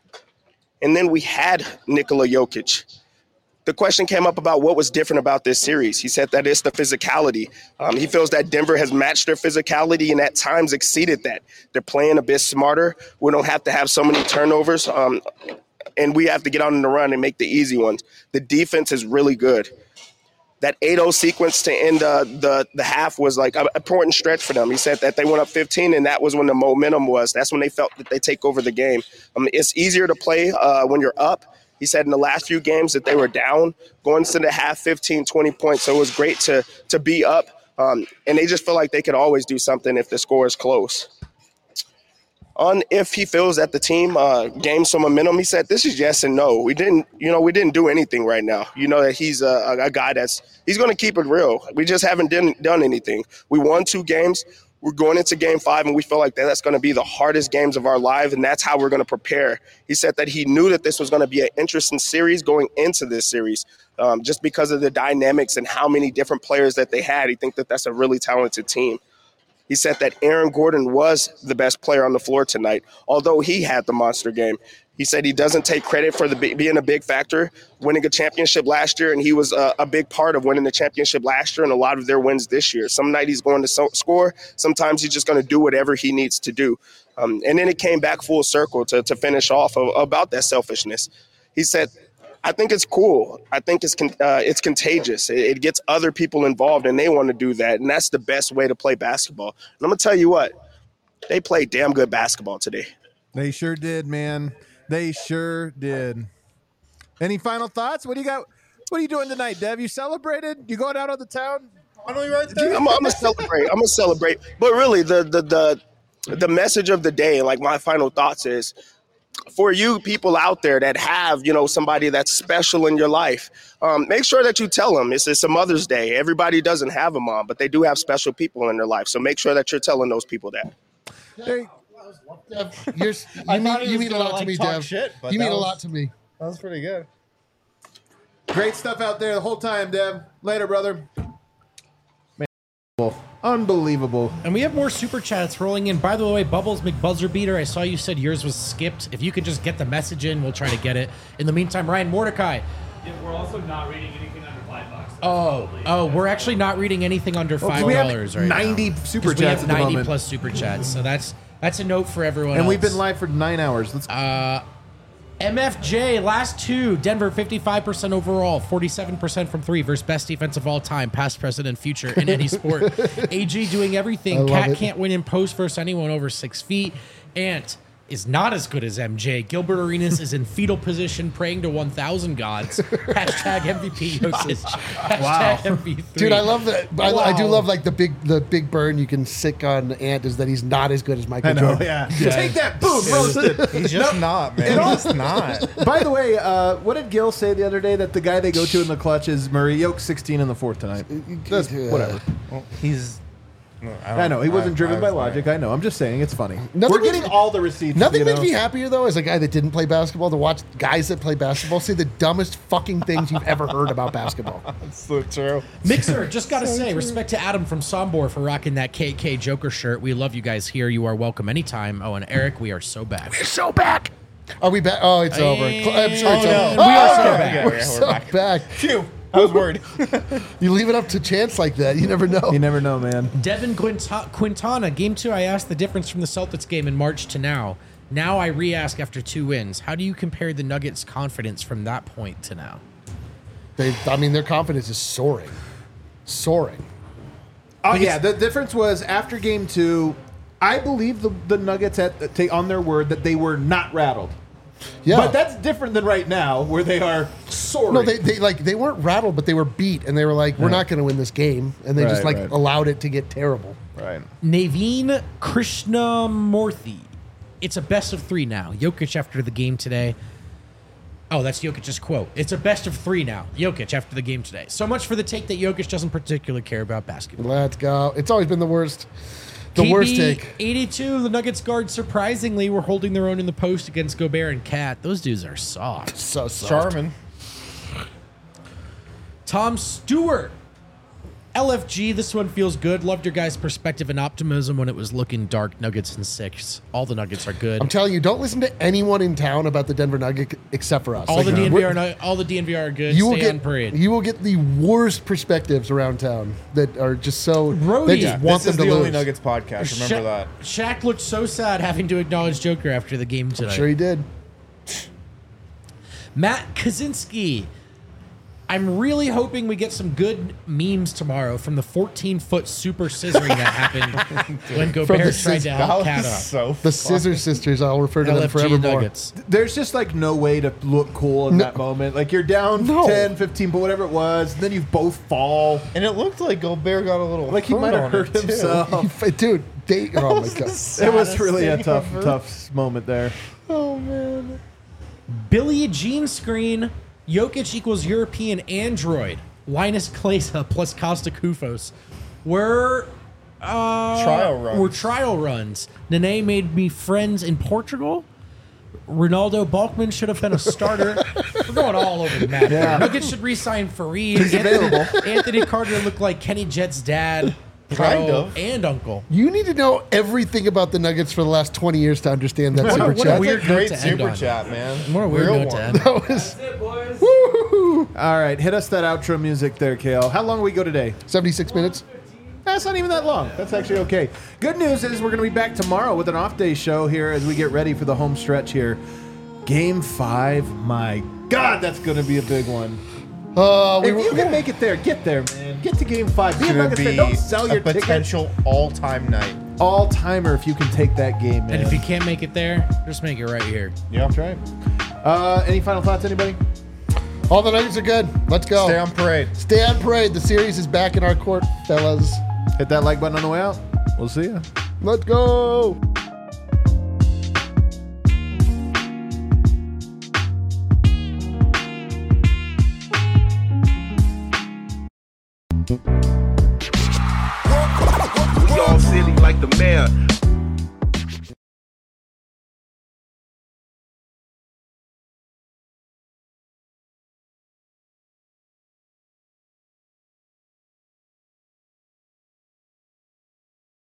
And then we had Nikola Jokic. The question came up about what was different about this series. He said that it's the physicality. Um, he feels that Denver has matched their physicality and at times exceeded that. They're playing a bit smarter. We don't have to have so many turnovers. Um, And we have to get on the run and make the easy ones. The defense is really good. That eight oh sequence to end uh, the, the half was like an important stretch for them. He said that they went up fifteen, and that was when the momentum was. That's when they felt that they take over the game. Um, it's easier to play uh, when you're up. He said in the last few games that they were down, going into the half, fifteen, twenty points. So it was great to, to be up. Um, and they just feel like they could always do something if the score is close. On if he feels that the team uh, gained some momentum, he said, this is yes and no. We didn't, you know, we didn't do anything right now. You know that he's a, a guy that's, he's going to keep it real. We just haven't done, done anything. We won two games. We're going into game five, and we feel like that that's going to be the hardest games of our life, and that's how we're going to prepare. He said that he knew that this was going to be an interesting series going into this series um, just because of the dynamics and how many different players that they had. He thinks that that's a really talented team. He said that Aaron Gordon was the best player on the floor tonight, although he had the monster game. He said he doesn't take credit for the being a big factor, winning a championship last year, and he was a, a big part of winning the championship last year and a lot of their wins this year. Some night he's going to so- score. Sometimes he's just going to do whatever he needs to do. Um, and then it came back full circle to, to finish off of, about that selfishness. He said, I think it's cool. I think it's con- uh, it's contagious. It, it gets other people involved, and they want to do that, and that's the best way to play basketball. And I'm going to tell you what, they played damn good basketball today. They sure did, man. They sure did. Any final thoughts? What do you got? What are you doing tonight, Dev? You celebrated? You going out on the town? Finally right there? I'm, I'm going to celebrate. I'm going to celebrate. But really, the, the, the, the message of the day, like my final thoughts is, for you people out there that have, you know, somebody that's special in your life, um, make sure that you tell them it's, it's a Mother's Day. Everybody doesn't have a mom, but they do have special people in their life. So make sure that you're telling those people that. Hey, Dev, you're, you mean, you mean a lot to me, Dev. Shit, you mean was, a lot to me. That was pretty good. Great stuff out there the whole time, Dev. Later, brother. Man, unbelievable. And we have more super chats rolling in. By the way, Bubbles McBuzzer Beater, I saw you said yours was skipped. If you could just get the message in, we'll try to get it. In the meantime, Ryan Mordecai. Yeah, we're also not reading anything under five bucks. So Oh, oh, we're actually not reading anything under five we have dollars right ninety now. super 'Cause we chats have at the ninety moment. plus super chats, so that's that's a note for everyone. And we've else. been live for nine hours. Let's Uh, M F J, last two. Denver, fifty-five percent overall, forty-seven percent from three versus best defense of all time, past, present, and future in any sport. A G doing I everything. love Cat it. can't win in post versus anyone over six feet. Ant is not as good as M J. Gilbert Arenas is in fetal position, praying to one thousand gods. Hashtag M V P Jokic. Hashtag Wow. M V P. Dude, I love that. I, I do Wow. love like the big the big burn you can sick on Ant is that he's not as good as Michael I know, Jordan. yeah. Take that, boom, roasted. He's just not, man. He's just not. By the way, uh, what did Gil say the other day? That the guy they go to in the clutch is Murray. Yoke sixteen in the fourth tonight. That's, Yeah. whatever. Well, he's I, I know he wasn't I- driven I by was logic. right. I know. I'm just saying it's funny. Nothing We're makes getting me- all the receipts. Nothing you makes know? me happier though, as a guy that didn't play basketball, to watch guys that play basketball say the dumbest fucking things you've ever heard about basketball. That's so true. Mixer, just gotta say, respect to Adam from Sombor for rocking that K K Joker shirt. We love you guys here. You are welcome anytime. Oh, and Eric, we are so back. So back. Are we back? Oh, it's over. Cl- I'm sure it's Oh, no. over. We are so okay. back. Yeah, We're yeah, we're so back. back. Phew. I was worried. You leave it up to chance like that, you never know. You never know, man. Devin Quinta- Quintana, game two, I asked the difference from the Celtics game in March to now. Now I re-ask after two wins. How do you compare the Nuggets' confidence from that point to now? They, I mean, their confidence is soaring, soaring. Oh yeah, the difference was after game two, I believe the, the Nuggets had take on their word that they were not rattled. Yeah, But that's different than right now, where they are soaring. no, they, they like they weren't rattled, but they were beat, and they were like, "We're not going to win this game," and they just Right, like right. allowed it to get terrible. right. Naveen Krishnamurthy. It's a best of three now. Jokic after the game today. Oh, that's Jokic's quote. It's a best of three now. Jokic after the game today. So much for the take that Jokic doesn't particularly care about basketball. Let's go. It's always been the worst. The K B worst take. eighty-two, the Nuggets guards surprisingly were holding their own in the post against Gobert and Cat. Those dudes are soft. So soft. Charmin. Tom Stewart. L F G, this one feels good. Loved your guys' perspective and optimism when it was looking dark. Nuggets and six. All the Nuggets are good. I'm telling you, don't listen to anyone in town about the Denver Nuggets except for us. all Like, the D N V we're- are not, all the D N V are good. You Stay will get on parade. you will get the worst perspectives around town that are just so Brody. they just Yeah, want This is them to the lose. only Nuggets podcast. Remember Sha- that. Shaq looked so sad having to acknowledge Joker after the game tonight. Sure, he did. Matt Kaczynski. I'm really hoping we get some good memes tomorrow from the fourteen-foot super scissoring that happened when Gobert the tried cis- to That help was Cat up. so The Scissor Sisters, I'll refer to them L F G forevermore. Nuggets. There's just like no way to look cool in No. that moment. Like you're down No. ten, fifteen, but whatever it was, then you both fall. And it looked like Gobert got a little Like he hurt might have on hurt it, too. himself. Dude, they, oh my god. It was really a thing tough, ever. tough moment there. Oh man. Billy Jean screen. Jokic equals European Android. Linus Klesa plus Costa Kufos. We're uh, Trial runs. We're trial runs. Nene made me friends in Portugal. Ronaldo Balkman should have been a starter. We're going all over the map. Yeah. Nuggets should re-sign Fareed. He's available. Anthony Carter looked like Kenny Jett's dad, Kind bro, of. and uncle. You need to know everything about the Nuggets for the last twenty years to understand that What a- super what a chat. weird That's a great note to end super on. chat, man. What a weird Real note to one. end. That was That's it, boys. woo, All right, hit us that outro music there, Kale. How long will we go today? seventy-six minutes. That's not even that long. That's actually okay. Good news is we're going to be back tomorrow with an off day show here as we get ready for the home stretch here. Game five. My God, that's going to be a big one. Uh, we If were, you can make it there, get there, man. Get to game five. Be a It's gonna Nuggets fan. be Don't sell a your ticket. potential all-time night. All timer if you can take that game, man. And if you can't make it there, just make it right here. Yeah. That's right. Uh, any final thoughts, anybody? all the Nuggets are good. Let's go. Stay on parade. Stay on parade. The series is back in our court, fellas. Hit that like button on the way out. We'll see you. Let's go. We all silly like the mayor.